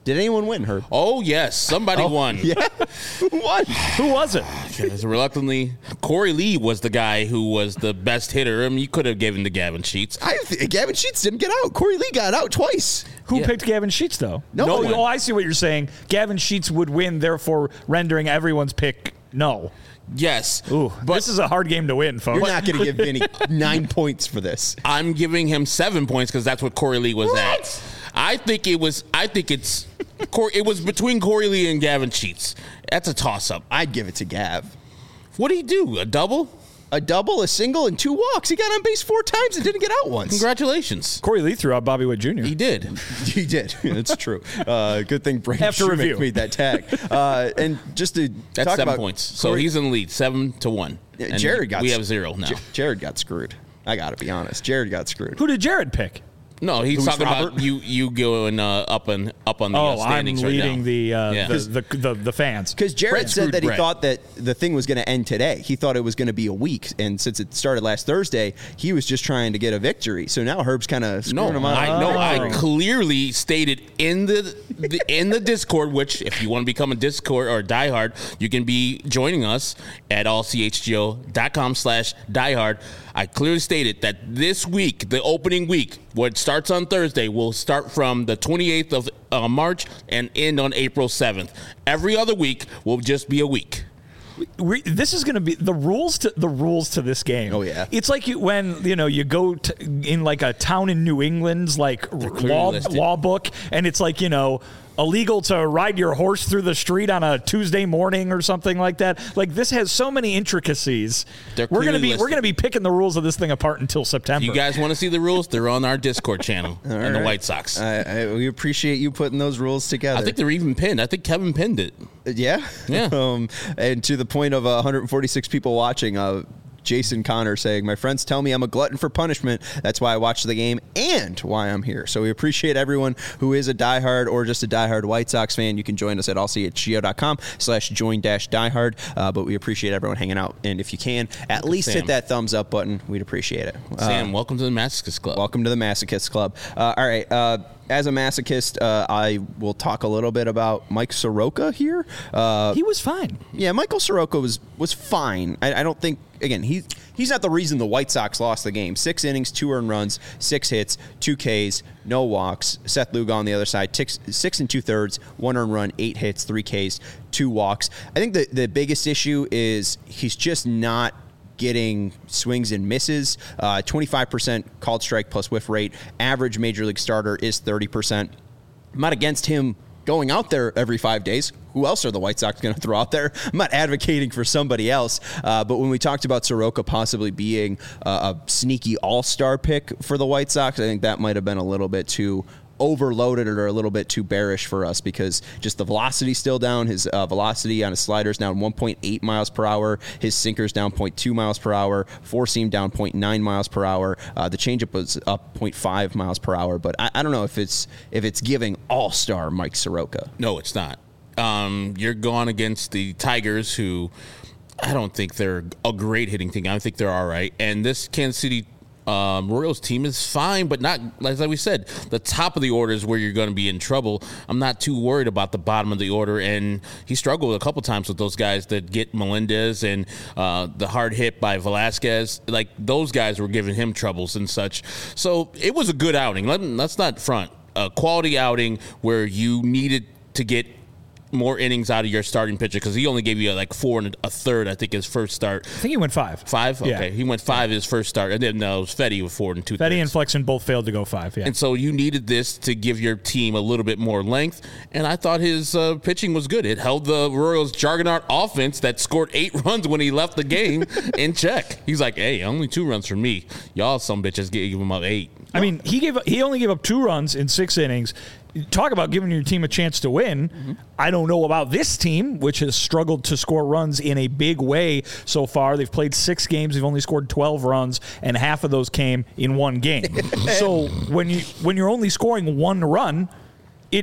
Did anyone win, Herb? Oh, yes. Somebody Oh, won. Yeah. Who won? Who was it? Yes, reluctantly, Corey Lee was the guy who was the best hitter. I mean, you could have given to Gavin Sheets. I th- Gavin Sheets didn't get out. Corey Lee got out twice. Who Yeah. picked Gavin Sheets, though? No oh, one. oh, I see what you're saying. Gavin Sheets would win, therefore rendering everyone's pick no. Yes. Ooh, but this is a hard game to win, folks. You're not going to give Vinny nine points for this. I'm giving him seven points because that's what Corey Lee was at. I think it was. I think it's. Cor- it was between Corey Lee and Gavin Sheets. That's a toss-up. I'd give it to Gav. What did he do? A double? A double, a single, and two walks. He got on base four times and didn't get out once. Congratulations. Corey Lee threw out Bobby Witt Junior He did. He did. It's true. Uh, good thing Brandon After Shoemaker review. made that tag. Uh, and just to That's talk seven about points. So Corey- he's in the lead, seven to one. Yeah, And Jared got We s- have zero now. J- Jared got screwed. I got to be honest. Jared got screwed. Who did Jared pick? No, he's Who's talking Robert? about you. You going uh, up and up on the uh, Oh, I'm standings right leading now. the, uh, Yeah. the, the, the the fans. Because Jared Brett said screwed that he Brett. thought that the thing was going to end today. He thought it was going to be a week, and since it started last Thursday, he was just trying to get a victory. So now Herb's kind of No, screwing him out. I no, I Oh. clearly stated in the, the in the Discord, which if you want to become a Discord or a diehard, you can be joining us at all c h g o dot com slash diehard. I clearly stated that this week, the opening week, what starts on Thursday, will start from the twenty-eighth of uh, March and end on April seventh. Every other week will just be a week. We, this is going to be the rules to the rules to this game. Oh, yeah. It's like you, when you know you go to, in like a town in New England's like clearly law listed. law book, and it's like you know illegal to ride your horse through the street on a Tuesday morning or something like that. Like this has so many intricacies. They're we're gonna clearly be listed. we're gonna be picking the rules of this thing apart until September. You guys want to see the rules? They're on our Discord channel and the right. White Sox. I, I, we appreciate you putting those rules together. I think they're even pinned. I think Kevin pinned it. Yeah, Yeah. um, and to the point of uh, one hundred forty-six people watching, uh, Jason Connor saying, "My friends tell me I'm a glutton for punishment. That's why I watch the game and why I'm here." So we appreciate everyone who is a diehard or just a diehard White Sox fan. You can join us at all c h g o dot com slash join dash diehard. Uh, but we appreciate everyone hanging out. And if you can, at least Sam. hit that thumbs up button. We'd appreciate it. Sam, Uh, welcome to the Masochist Club. Welcome to the Masochist Club. Uh, all right. Uh, as a masochist, uh, I will talk a little bit about Mike Soroka here. Uh, he was fine. yeah, Michael Soroka was was fine. I, I don't think again he's he's not the reason the White Sox lost the game. Six innings, two earned runs, six hits, two Ks, no walks. Seth Lugo on the other side, six, six and two thirds, one earned run, eight hits, three Ks, two walks. I think the the biggest issue is he's just not getting swings and misses. Uh, twenty-five percent called strike plus whiff rate. Average major league starter is thirty percent. I'm not against him going out there every five days. Who else are the White Sox going to throw out there? I'm not advocating for somebody else. Uh, but when we talked about Soroka possibly being uh, a sneaky all-star pick for the White Sox, I think that might have been a little bit too overloaded or a little bit too bearish for us because just the velocity's still down. His uh, velocity on his sliders down one point eight miles per hour. His sinker's down zero point two miles per hour. Four seam down zero point nine miles per hour. Uh, the changeup was up zero point five miles per hour. But I, I don't know if it's if it's giving all-star Mike Soroka. No, it's not. Um, you're going against the Tigers, who I don't think they're a great hitting team. I think they're all right. And this Kansas City um, Royals team is fine, but not, like we said, the top of the order is where you're going to be in trouble. I'm not too worried about the bottom of the order. And he struggled a couple times with those guys that get Melendez and uh, the hard hit by Velasquez. Like, those guys were giving him troubles and such. So it was a good outing. Let, let's not front. A quality outing where you needed to get more innings out of your starting pitcher because he only gave you like four and a third, I think, his first start. I think he went five. Five? Yeah. Okay. He went five his first start. And then no, it was Fetty with four and two Fetty and thirds. Flexen both failed to go five. Yeah. And so you needed this to give your team a little bit more length. And I thought his uh, pitching was good. It held the Royals' juggernaut offense that scored eight runs when he left the game in check. He's like, hey, only two runs from me. Y'all some bitches gave him up eight. I mean, he gave he only gave up two runs in six innings. Talk about giving your team a chance to win. Mm-hmm. I don't know about this team, which has struggled to score runs in a big way so far. They've played six games. They've only scored twelve runs, and half of those came in one game. So when you when you're only scoring one run, it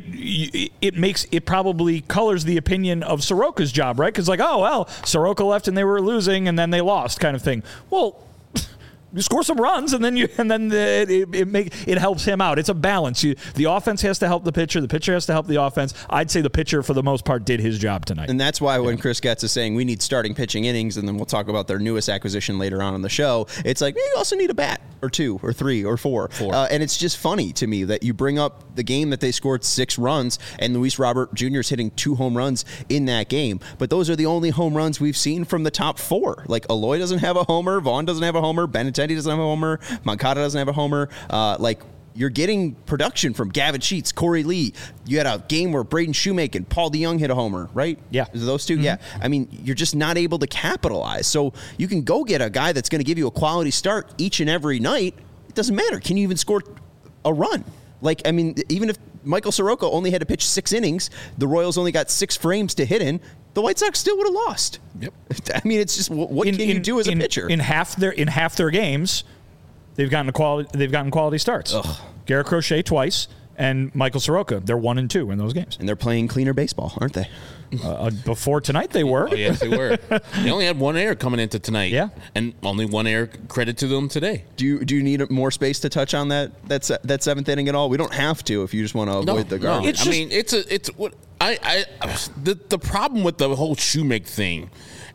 it makes it probably colors the opinion of Soroka's job, right? Because like, oh well, Soroka left and they were losing, and then they lost, kind of thing. Well. you score some runs, and then you and then the, it it, make, it helps him out. It's a balance. You, the offense has to help the pitcher. The pitcher has to help the offense. I'd say the pitcher, for the most part, did his job tonight. And that's why when Chris Getz is saying we need starting pitching innings, and then we'll talk about their newest acquisition later on in the show, it's like, you also need a bat or two or three or four. four. Uh, and it's just funny to me that you bring up the game that they scored six runs, and Luis Robert Junior is hitting two home runs in that game. But those are the only home runs we've seen from the top four. Like, Eloy doesn't have a homer, Vaughn doesn't have a homer, Benintendi doesn't have a homer, Moncada doesn't have a homer. Uh, like, you're getting production from Gavin Sheets, Corey Lee. You had a game where Braden Shoemaker and Paul DeYoung hit a homer, right? Yeah. Is it those two? Mm-hmm. Yeah. I mean, you're just not able to capitalize. So you can go get a guy that's going to give you a quality start each and every night. It doesn't matter. Can you even score a run? Like, I mean, even if Michael Soroka only had to pitch six innings, the Royals only got six frames to hit in, the White Sox still would have lost. Yep. I mean, it's just, what in, can in, you do as in, a pitcher? In half their in half their games, they've gotten a quality. They've gotten quality starts. Ugh. Garrett Crochet twice, and Michael Soroka. They're one and two in those games. And they're playing cleaner baseball, aren't they? Uh, before tonight, they were. Oh, yes, they were. They only had one error coming into tonight. Yeah. And only one error, credit to them today. Do you do you need more space to touch on that that se- that seventh inning at all? We don't have to if you just want to avoid the garbage. No. It's I just- mean, it's a it's what I I the the problem with the whole Shoemake thing.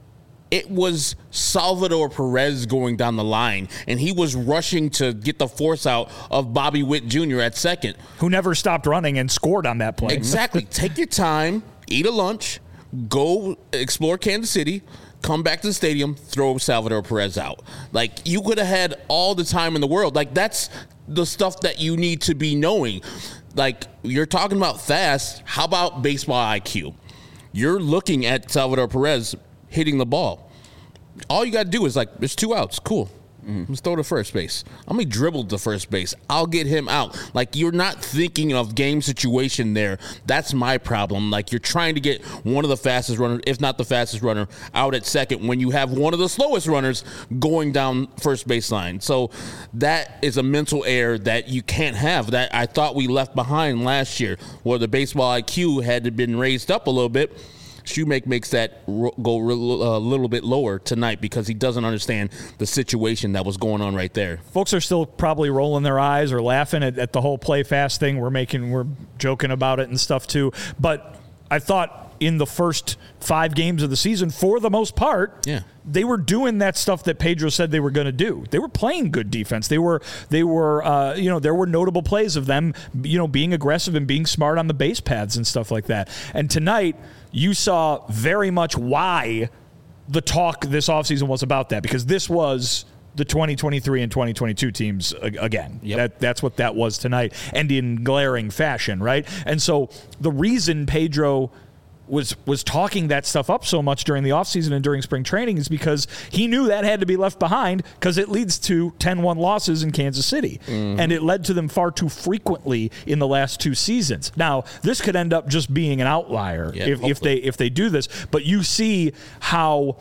It was Salvador Perez going down the line, and he was rushing to get the force out of Bobby Witt Junior at second. Who never stopped running and scored on that play. Exactly. Take your time, eat a lunch, go explore Kansas City, come back to the stadium, throw Salvador Perez out. Like, you could have had all the time in the world. Like, that's the stuff that you need to be knowing. Like, you're talking about fast. How about baseball I Q? You're looking at Salvador Perez hitting the ball. All you got to do is, like, there's two outs. Cool. Mm-hmm. Let's throw to first base. I'm going to dribble to first base. I'll get him out. Like, you're not thinking of game situation there. That's my problem. Like, you're trying to get one of the fastest runners, if not the fastest runner, out at second when you have one of the slowest runners going down first baseline. So that is a mental error that you can't have, that I thought we left behind last year, where the baseball I Q had been raised up a little bit. Shoemake makes that ro- go a little bit lower tonight because he doesn't understand the situation that was going on right there. Folks are still probably rolling their eyes or laughing at, at the whole play fast thing. We're making, we're joking about it and stuff too. But I thought in the first five games of the season, for the most part, yeah. they were doing that stuff that Pedro said they were going to do. They were playing good defense. They were, they were, uh, you know, there were notable plays of them, you know, being aggressive and being smart on the base paths and stuff like that. And tonight, you saw very much why the talk this offseason was about that, because this was the twenty twenty-three and twenty twenty-two teams again. Yep. That that's what that was tonight, and in glaring fashion, right? And so the reason Pedro was was talking that stuff up so much during the offseason and during spring training is because he knew that had to be left behind, because it leads to ten one losses in Kansas City. Mm-hmm. And it led to them far too frequently in the last two seasons. Now, this could end up just being an outlier yeah, if, if they if they do this. But you see how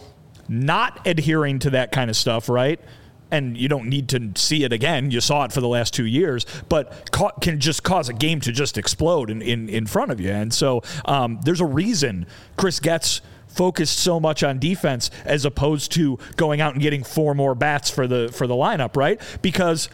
not adhering to that kind of stuff, right? And you don't need to see it again. You saw it for the last two years, but ca- can just cause a game to just explode in, in, in front of you. And so um, there's a reason Chris Getz focused so much on defense as opposed to going out and getting four more bats for the for the lineup, right? Because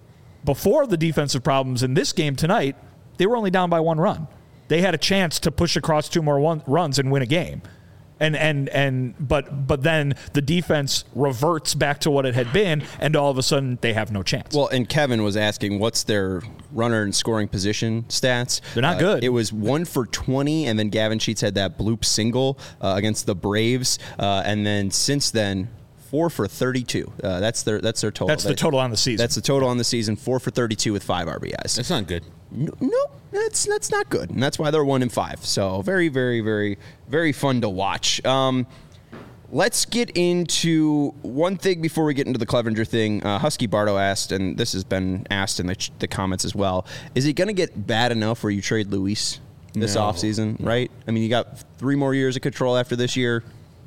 before the defensive problems in this game tonight, they were only down by one run. They had a chance to push across two more one, runs and win a game. And and and but but then the defense reverts back to what it had been, and all of a sudden they have no chance. Well, and Kevin was asking, what's their runner and scoring position stats? They're not uh, good. It was one for twenty, and then Gavin Sheets had that bloop single uh, against the Braves, uh, and then since then, four for thirty-two. Uh, that's their that's their total. That's the That- total on the season. That's the total on the season. Four for thirty-two with five R B Is. That's not good. No, no, that's that's not good, and that's why they're one and five. So very, very, very, very fun to watch. Um, let's get into one thing before we get into the Clevenger thing. Uh, Husky Bardo asked, and this has been asked in the, ch- the comments as well, is it going to get bad enough where you trade Luis this No. offseason, right? I mean, you got three more years of control after this year.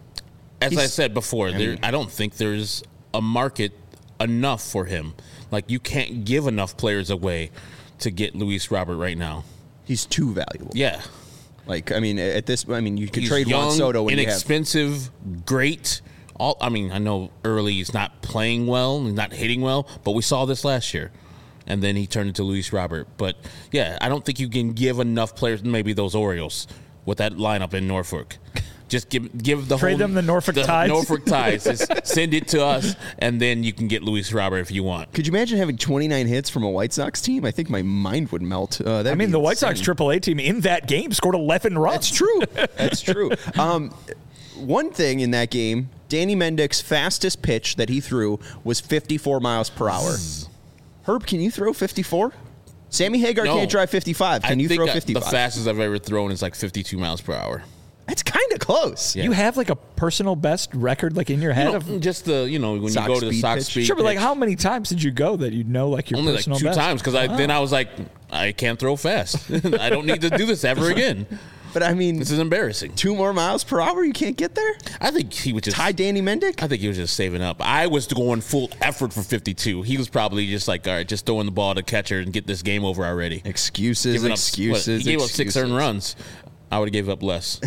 As He's- I said before, I there, mean- I don't think there's a market enough for him. Like, you can't give enough players away to get Luis Robert right now. He's too valuable. Yeah. Like, I mean, at this, I mean, you could He's trade young, Juan Soto when you have. inexpensive, great all. I mean, I know early he's not playing well, he's not hitting well, but we saw this last year. And then he turned into Luis Robert. But, yeah, I don't think you can give enough players, maybe those Orioles, with that lineup in Norfolk. Just give give the Trade whole, them the Norfolk the Tides. Norfolk Tides. Just send it to us, and then you can get Luis Robert if you want. Could you imagine having twenty-nine hits from a White Sox team? I think my mind would melt. Uh, I mean, the White Sox triple A team in that game scored eleven runs. That's true. That's true. Um, one thing in that game, Danny Mendick's fastest pitch that he threw was fifty-four miles per hour. Herb, can you throw fifty-four? Sammy Hagar No. can't drive fifty-five. Can I you think throw I- fifty-five? The fastest I've ever thrown is like fifty-two miles per hour. That's kind of close. Yeah. You have like a personal best record like in your head You know, of just the, you know, when Sox you go to the speed Sox pitch. speed Sure, but like pitch. how many times did you go that you know like your Only like personal two best? times because I then I was like, I can't throw fast. I don't need to do this ever again. But I mean, This is embarrassing. two more miles per hour, you can't get there? I think he was just Ty Danny Mendick? I think he was just saving up. I was going full effort for fifty-two. He was probably just like, all right, just throwing the ball to catcher and get this game over already. Excuses, Giving up- excuses. what, he gave up six excuses. earned runs. I would have gave up less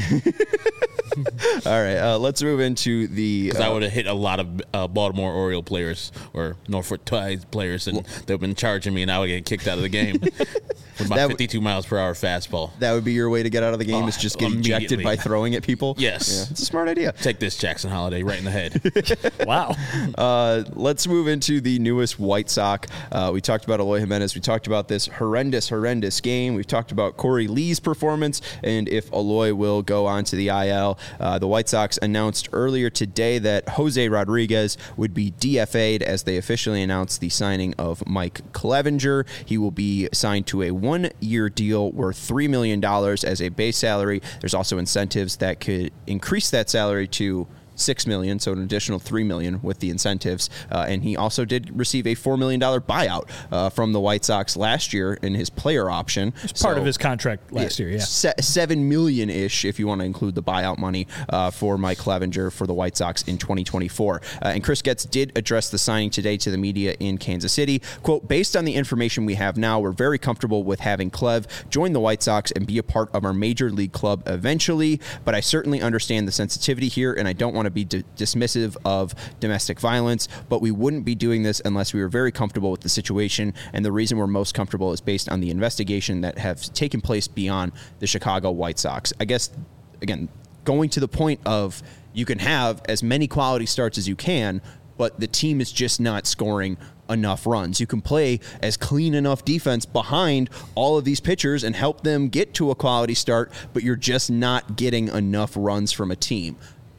All right, uh, let's move into the. because I uh, would have hit a lot of uh, Baltimore Oriole players or Norfolk Tides players, and they've been charging me, and I would get kicked out of the game with my That w- fifty-two miles per hour fastball. that would be your way to get out of the game Oh, is just get ejected immediately. by throwing at people? Yes. Yeah, it's a smart idea. Take this, Jackson Holiday, right in the head. Wow. Uh, let's move into the newest White Sox. Uh, we talked about Eloy Jimenez. We talked about this horrendous, horrendous game. We've talked about Corey Lee's performance and if Eloy will go on to the I L. Uh, the White Sox announced earlier today that Jose Rodriguez would be D F A'd as they officially announced the signing of Mike Clevenger. He will be signed to a one-year deal worth three million dollars as a base salary. There's also incentives that could increase that salary to six million dollars, so an additional three million dollars with the incentives. Uh, and he also did receive a four million dollars buyout uh, from the White Sox last year in his player option. It's part of his contract last year, yeah. Se- seven million ish, if you want to include the buyout money uh, for Mike Clevenger for the White Sox in twenty twenty-four. Uh, and Chris Getz did address the signing today to the media in Kansas City. Quote, based on the information we have now, we're very comfortable with having Clev join the White Sox and be a part of our major league club eventually. But I certainly understand the sensitivity here, and I don't want to be d- dismissive of domestic violence, but we wouldn't be doing this unless we were very comfortable with the situation. And the reason we're most comfortable is based on the investigation that have taken place beyond the Chicago White Sox. I guess, again, going to the point of you can have as many quality starts as you can, but the team is just not scoring enough runs. You can play as clean enough defense behind all of these pitchers and help them get to a quality start, but you're just not getting enough runs from a team.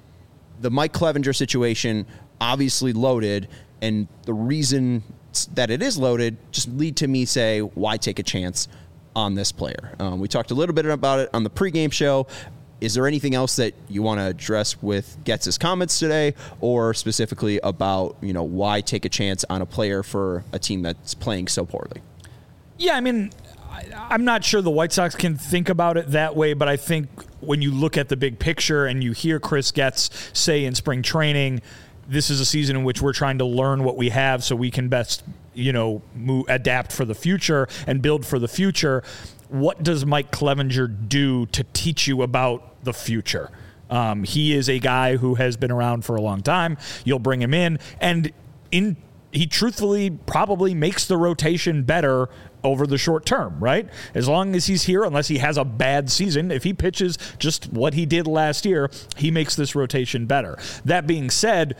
The Mike Clevenger situation, obviously loaded, and the reason that it is loaded just lead to me say, why take a chance on this player? Um, we talked a little bit about it on the pregame show. Is there anything else that you want to address with Getz's comments today, or specifically about, you know, why take a chance on a player for a team that's playing so poorly? Yeah, I mean, I, I'm not sure the White Sox can think about it that way, but I think when you look at the big picture and you hear Chris Getz say in spring training, this is a season in which we're trying to learn what we have so we can best, you know, move, adapt for the future and build for the future. What does Mike Clevenger do to teach you about the future? Um, he is a guy who has been around for a long time. You'll bring him in, and in he truthfully probably makes the rotation better over the short term, right? As long as he's here, unless he has a bad season, if he pitches just what he did last year, he makes this rotation better. That being said,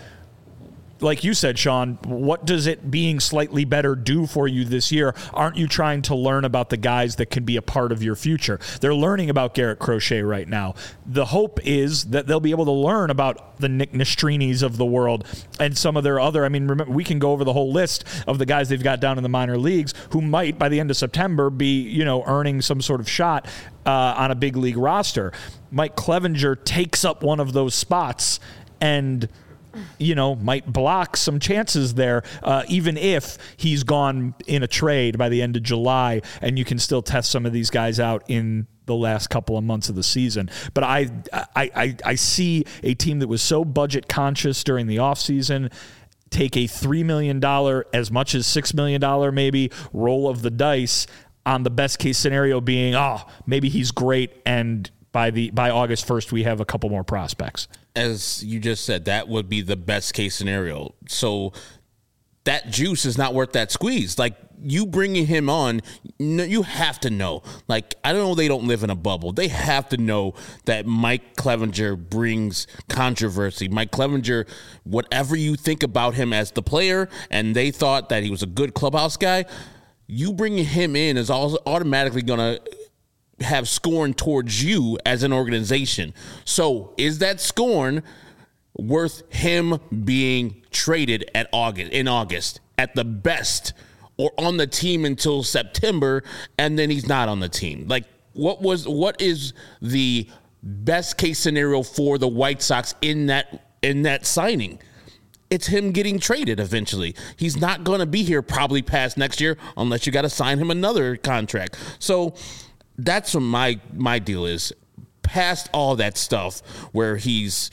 like you said, Sean, what does it being slightly better do for you this year? Aren't you trying to learn about the guys that can be a part of your future? They're learning about Garrett Crochet right now. The hope is that they'll be able to learn about the Nick Nestrinis of the world and some of their other, I mean, remember, we can go over the whole list of the guys they've got down in the minor leagues who might, by the end of September, be, you know, earning some sort of shot uh, on a big league roster. Mike Clevenger takes up one of those spots and, you know, might block some chances there, uh, even if he's gone in a trade by the end of July, and you can still test some of these guys out in the last couple of months of the season. But I, I, I, I see a team that was so budget conscious during the offseason take a three million dollars, as much as six million dollars maybe, roll of the dice on the best case scenario being, oh, maybe he's great and by the by August first, we have a couple more prospects. As you just said, that would be the best case scenario. So that juice is not worth that squeeze. Like, you bringing him on, you have to know. Like, I don't know, they don't live in a bubble. They have to know that Mike Clevenger brings controversy. Mike Clevenger, whatever you think about him as the player, and they thought that he was a good clubhouse guy, you bringing him in is also automatically going to have scorn towards you as an organization. So is that scorn worth him being traded at August in August at the best, or on the team until September, and then he's not on the team? Like, what was what is the best case scenario for the White Sox in that in that signing? It's him getting traded eventually. He's not going to be here probably past next year unless you got to sign him another contract. So that's what my my deal is. Past all that stuff where he's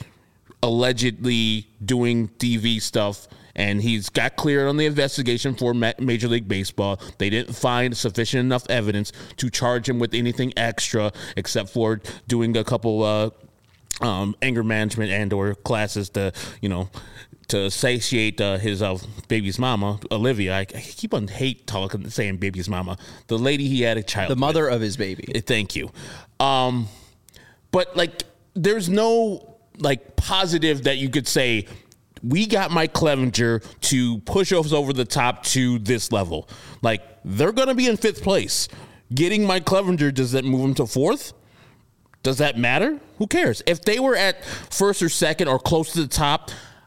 allegedly doing T V stuff, and he's got cleared on the investigation for Major League Baseball. They didn't find sufficient enough evidence to charge him with anything extra except for doing a couple uh, um, anger management and or classes to, you know, to satiate uh, his uh, baby's mama, Olivia. I, I keep on hate talking, saying baby's mama. The lady he had a child The mother with. of his baby. Thank you. Um, but, like, there's no, like, positive that you could say, we got Mike Clevenger to push us over the top to this level. Like, they're going to be in fifth place. Getting Mike Clevenger, does that move him to fourth? Does that matter? Who cares? If they were at first or second or close to the top,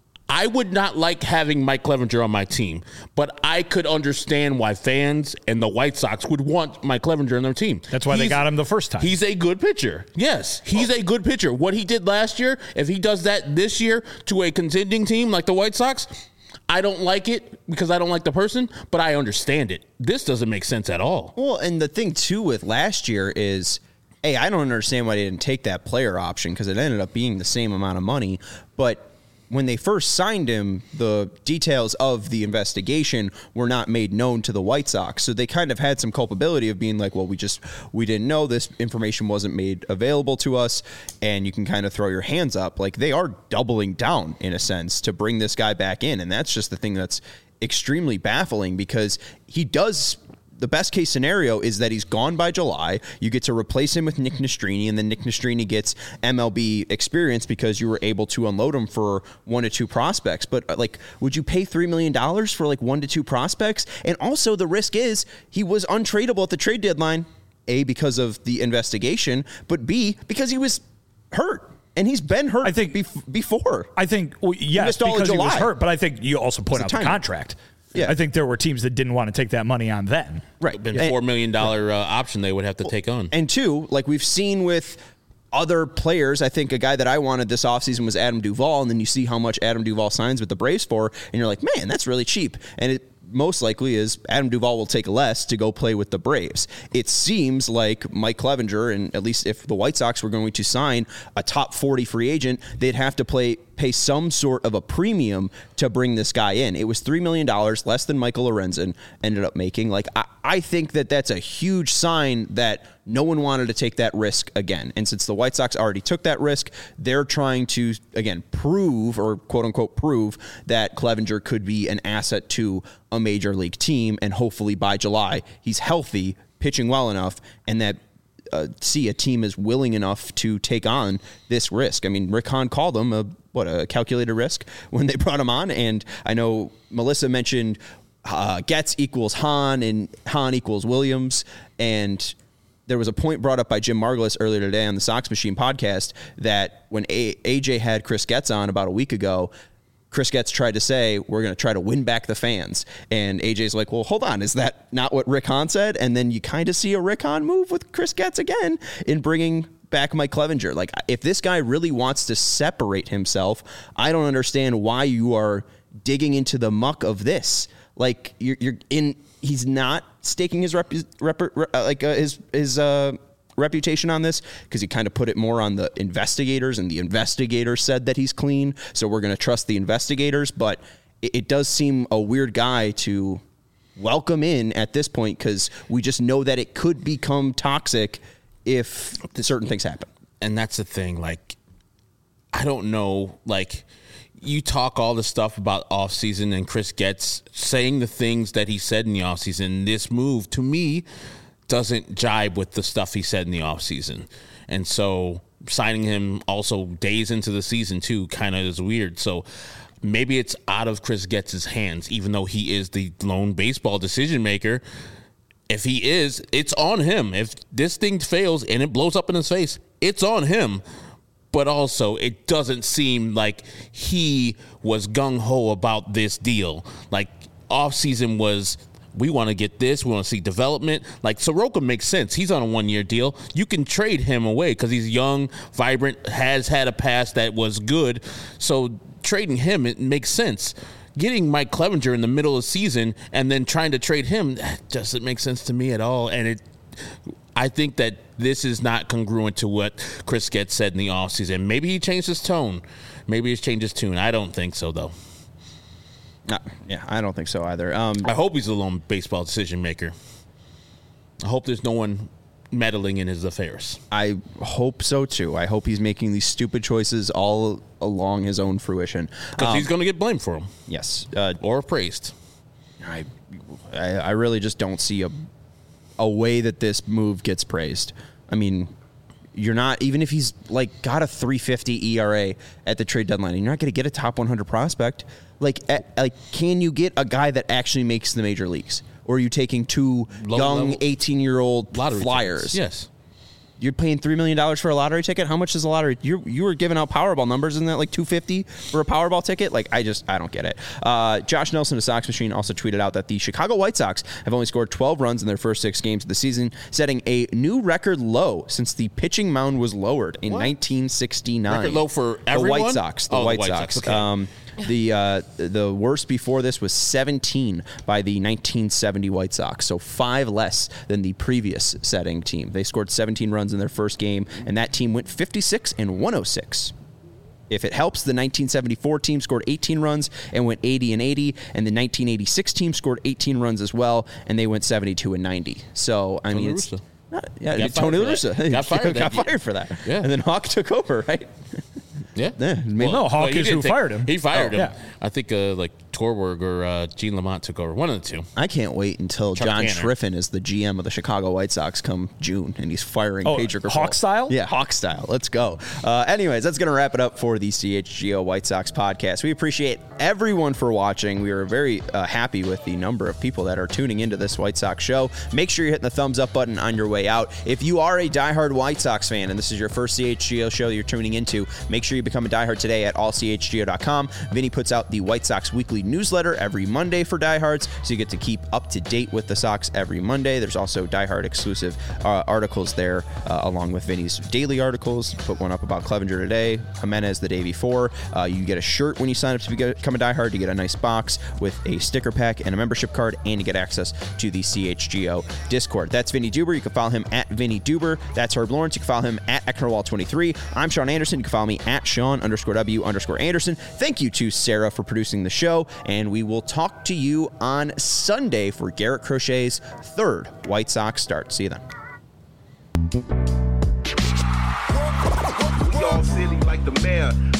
I would not like having Mike Clevenger on my team, but I could understand why fans and the White Sox would want Mike Clevenger on their team. That's why He's, they got him the first time. He's a good pitcher. Yes, he's a good pitcher. What he did last year, if he does that this year to a contending team like the White Sox, I don't like it because I don't like the person, but I understand it. This doesn't make sense at all. Well, and the thing, too, with last year is, hey, I don't understand why they didn't take that player option because it ended up being the same amount of money, but when they first signed him, the details of the investigation were not made known to the White Sox. So they kind of had some culpability of being like, well, we just, we didn't know this information wasn't made available to us. And you can kind of throw your hands up. Like, they are doubling down in a sense to bring this guy back in. And that's just the thing that's extremely baffling because he does. The best case scenario is that he's gone by July. You get to replace him with Nick Nastrini, and then Nick Nastrini gets M L B experience because you were able to unload him for one to two prospects. But, like, would you pay three million dollars for, like, one to two prospects? And also the risk is he was untradeable at the trade deadline, A, because of the investigation, but B, because he was hurt. And he's been hurt I think, bef- before. I think, well, yes, because he was hurt, but I think you also put out the contract. Yeah. I think there were teams that didn't want to take that money on then. Right. Been four million dollars uh, option they would have to well, take on. And two, like we've seen with other players, I think a guy that I wanted this offseason was Adam Duvall, and then you see how much Adam Duvall signs with the Braves for, and you're like, man, that's really cheap. And it most likely is Adam Duvall will take less to go play with the Braves. It seems like Mike Clevenger, and at least if the White Sox were going to sign a top forty free agent, they'd have to play pay some sort of a premium to bring this guy in. It was three million dollars, less than Michael Lorenzen ended up making. Like, I, I think that that's a huge sign that no one wanted to take that risk again. And since the White Sox already took that risk, they're trying to, again, prove or quote-unquote prove that Clevenger could be an asset to a major league team. And hopefully by July, he's healthy, pitching well enough, and that uh, see a team is willing enough to take on this risk. I mean, Rick Hahn called him a what a calculated risk when they brought him on. And I know Melissa mentioned uh, Getz equals Hahn and Hahn equals Williams. And there was a point brought up by Jim Margulis earlier today on the Sox Machine podcast that when a- AJ had Chris Getz on about a week ago, Chris Getz tried to say, we're going to try to win back the fans. And A J's like, well, hold on. Is that not what Rick Hahn said? And then you kind of see a Rick Hahn move with Chris Getz again in bringing back Mike Clevenger. Like, if this guy really wants to separate himself, I don't understand why you are digging into the muck of this. Like, you're, you're in, he's not staking his rep, rep like uh, his, his, uh, reputation on this because he kind of put it more on the investigators, and the investigators said that he's clean, so we're going to trust the investigators. But it, it does seem a weird guy to welcome in at this point because we just know that it could become toxic if certain things happen. and that's the thing. Like, I don't know. Like, you talk all the stuff about offseason and Chris Getz saying the things that he said in the offseason. This move, to me, doesn't jibe with the stuff he said in the offseason. And so signing him also days into the season, too, kind of is weird. So maybe it's out of Chris Getz's hands, even though he is the lone baseball decision maker. If he is, it's on him. If this thing fails and it blows up in his face, it's on him. But also, it doesn't seem like he was gung-ho about this deal. Like, offseason was, we want to get this, we want to see development. Like, Soroka makes sense. He's on a one-year deal. You can trade him away because he's young, vibrant, has had a past that was good. So trading him, it makes sense. Getting Mike Clevinger in the middle of the season and then trying to trade him, that doesn't make sense to me at all. And it, I think that this is not congruent to what Chris Getz said in the offseason. Maybe he changed his tone. Maybe he's changed his tune. I don't think so, though. Uh, yeah, I don't think so either. Um, I hope he's the lone baseball decision maker. I hope there's no one meddling in his affairs. I hope so, too. I hope he's making these stupid choices all along his own fruition. Because um, he's going to get blamed for them. Yes. Uh, or praised. I, I I really just don't see a a way that this move gets praised. I mean, you're not, even if he's like got a three fifty E R A at the trade deadline, and you're not going to get a top one hundred prospect. Like, at, like, can you get a guy that actually makes the major leagues? Or are you taking two Low young eighteen-year-old flyers? Tickets. Yes. You're paying three million dollars for a lottery ticket? How much is a lottery? You you were giving out Powerball numbers. Isn't that like two hundred fifty dollars for a Powerball ticket? Like, I just, I don't get it. Uh, Josh Nelson of Sox Machine also tweeted out that the Chicago White Sox have only scored twelve runs in their first six games of the season, setting a new record low since the pitching mound was lowered in What? nineteen sixty-nine. Record low for everyone? The White Sox. The Oh, the White White Sox. Sox, okay. Um, the uh, the worst before this was seventeen by the nineteen seventy White Sox, so five less than the previous setting team. They scored seventeen runs in their first game, and that team went fifty-six and one oh six. If it helps, the nineteen seventy-four team scored eighteen runs and went eighty and eighty, and the nineteen eighty-six team scored eighteen runs as well, and they went seventy-two and ninety. So, I Tony mean, La it's Russa. not, yeah, Got Tony La fired for Russa that. Got fired got that fired for that. Yeah. And then Hawk took over, right? Yeah. Yeah, maybe- no, Hawk he is didn't who take- fired him. He fired Oh, him. yeah. I think uh, like Torberg or uh, Gene Lamont took over. One of the two. I can't wait until Chuck John Tanner. Schriffen is the G M of the Chicago White Sox come June, and he's firing Oh, Pedro Grifol. Hawk style? Yeah, Hawk style. Let's go. Uh, anyways, that's going to wrap it up for the C H G O White Sox podcast. We appreciate everyone for watching. We are very uh, happy with the number of people that are tuning into this White Sox show. Make sure you're hitting the thumbs up button on your way out. If you are a diehard White Sox fan, and this is your first C H G O show you're tuning into, make sure you become a diehard today at all c h g o dot com. Vinny puts out the White Sox weekly newsletter every Monday for diehards, so you get to keep up to date with the Sox every Monday. There's also diehard exclusive uh, articles there, uh, along with Vinny's daily articles. Put one up about Clevinger today, Jimenez the day before. Uh, you get a shirt when you sign up to become a diehard. You get a nice box with a sticker pack and a membership card, and you get access to the C H G O Discord. That's Vinny Duber. You can follow him at Vinny Duber. That's Herb Lawrence. You can follow him at Ecknerwall twenty-three. I'm Sean Anderson. You can follow me at Sean underscore W underscore Anderson. Thank you to Sarah for producing the show, and we will talk to you on Sunday for Garrett Crochet's third White Sox start. See you then. We all silly like the mayor.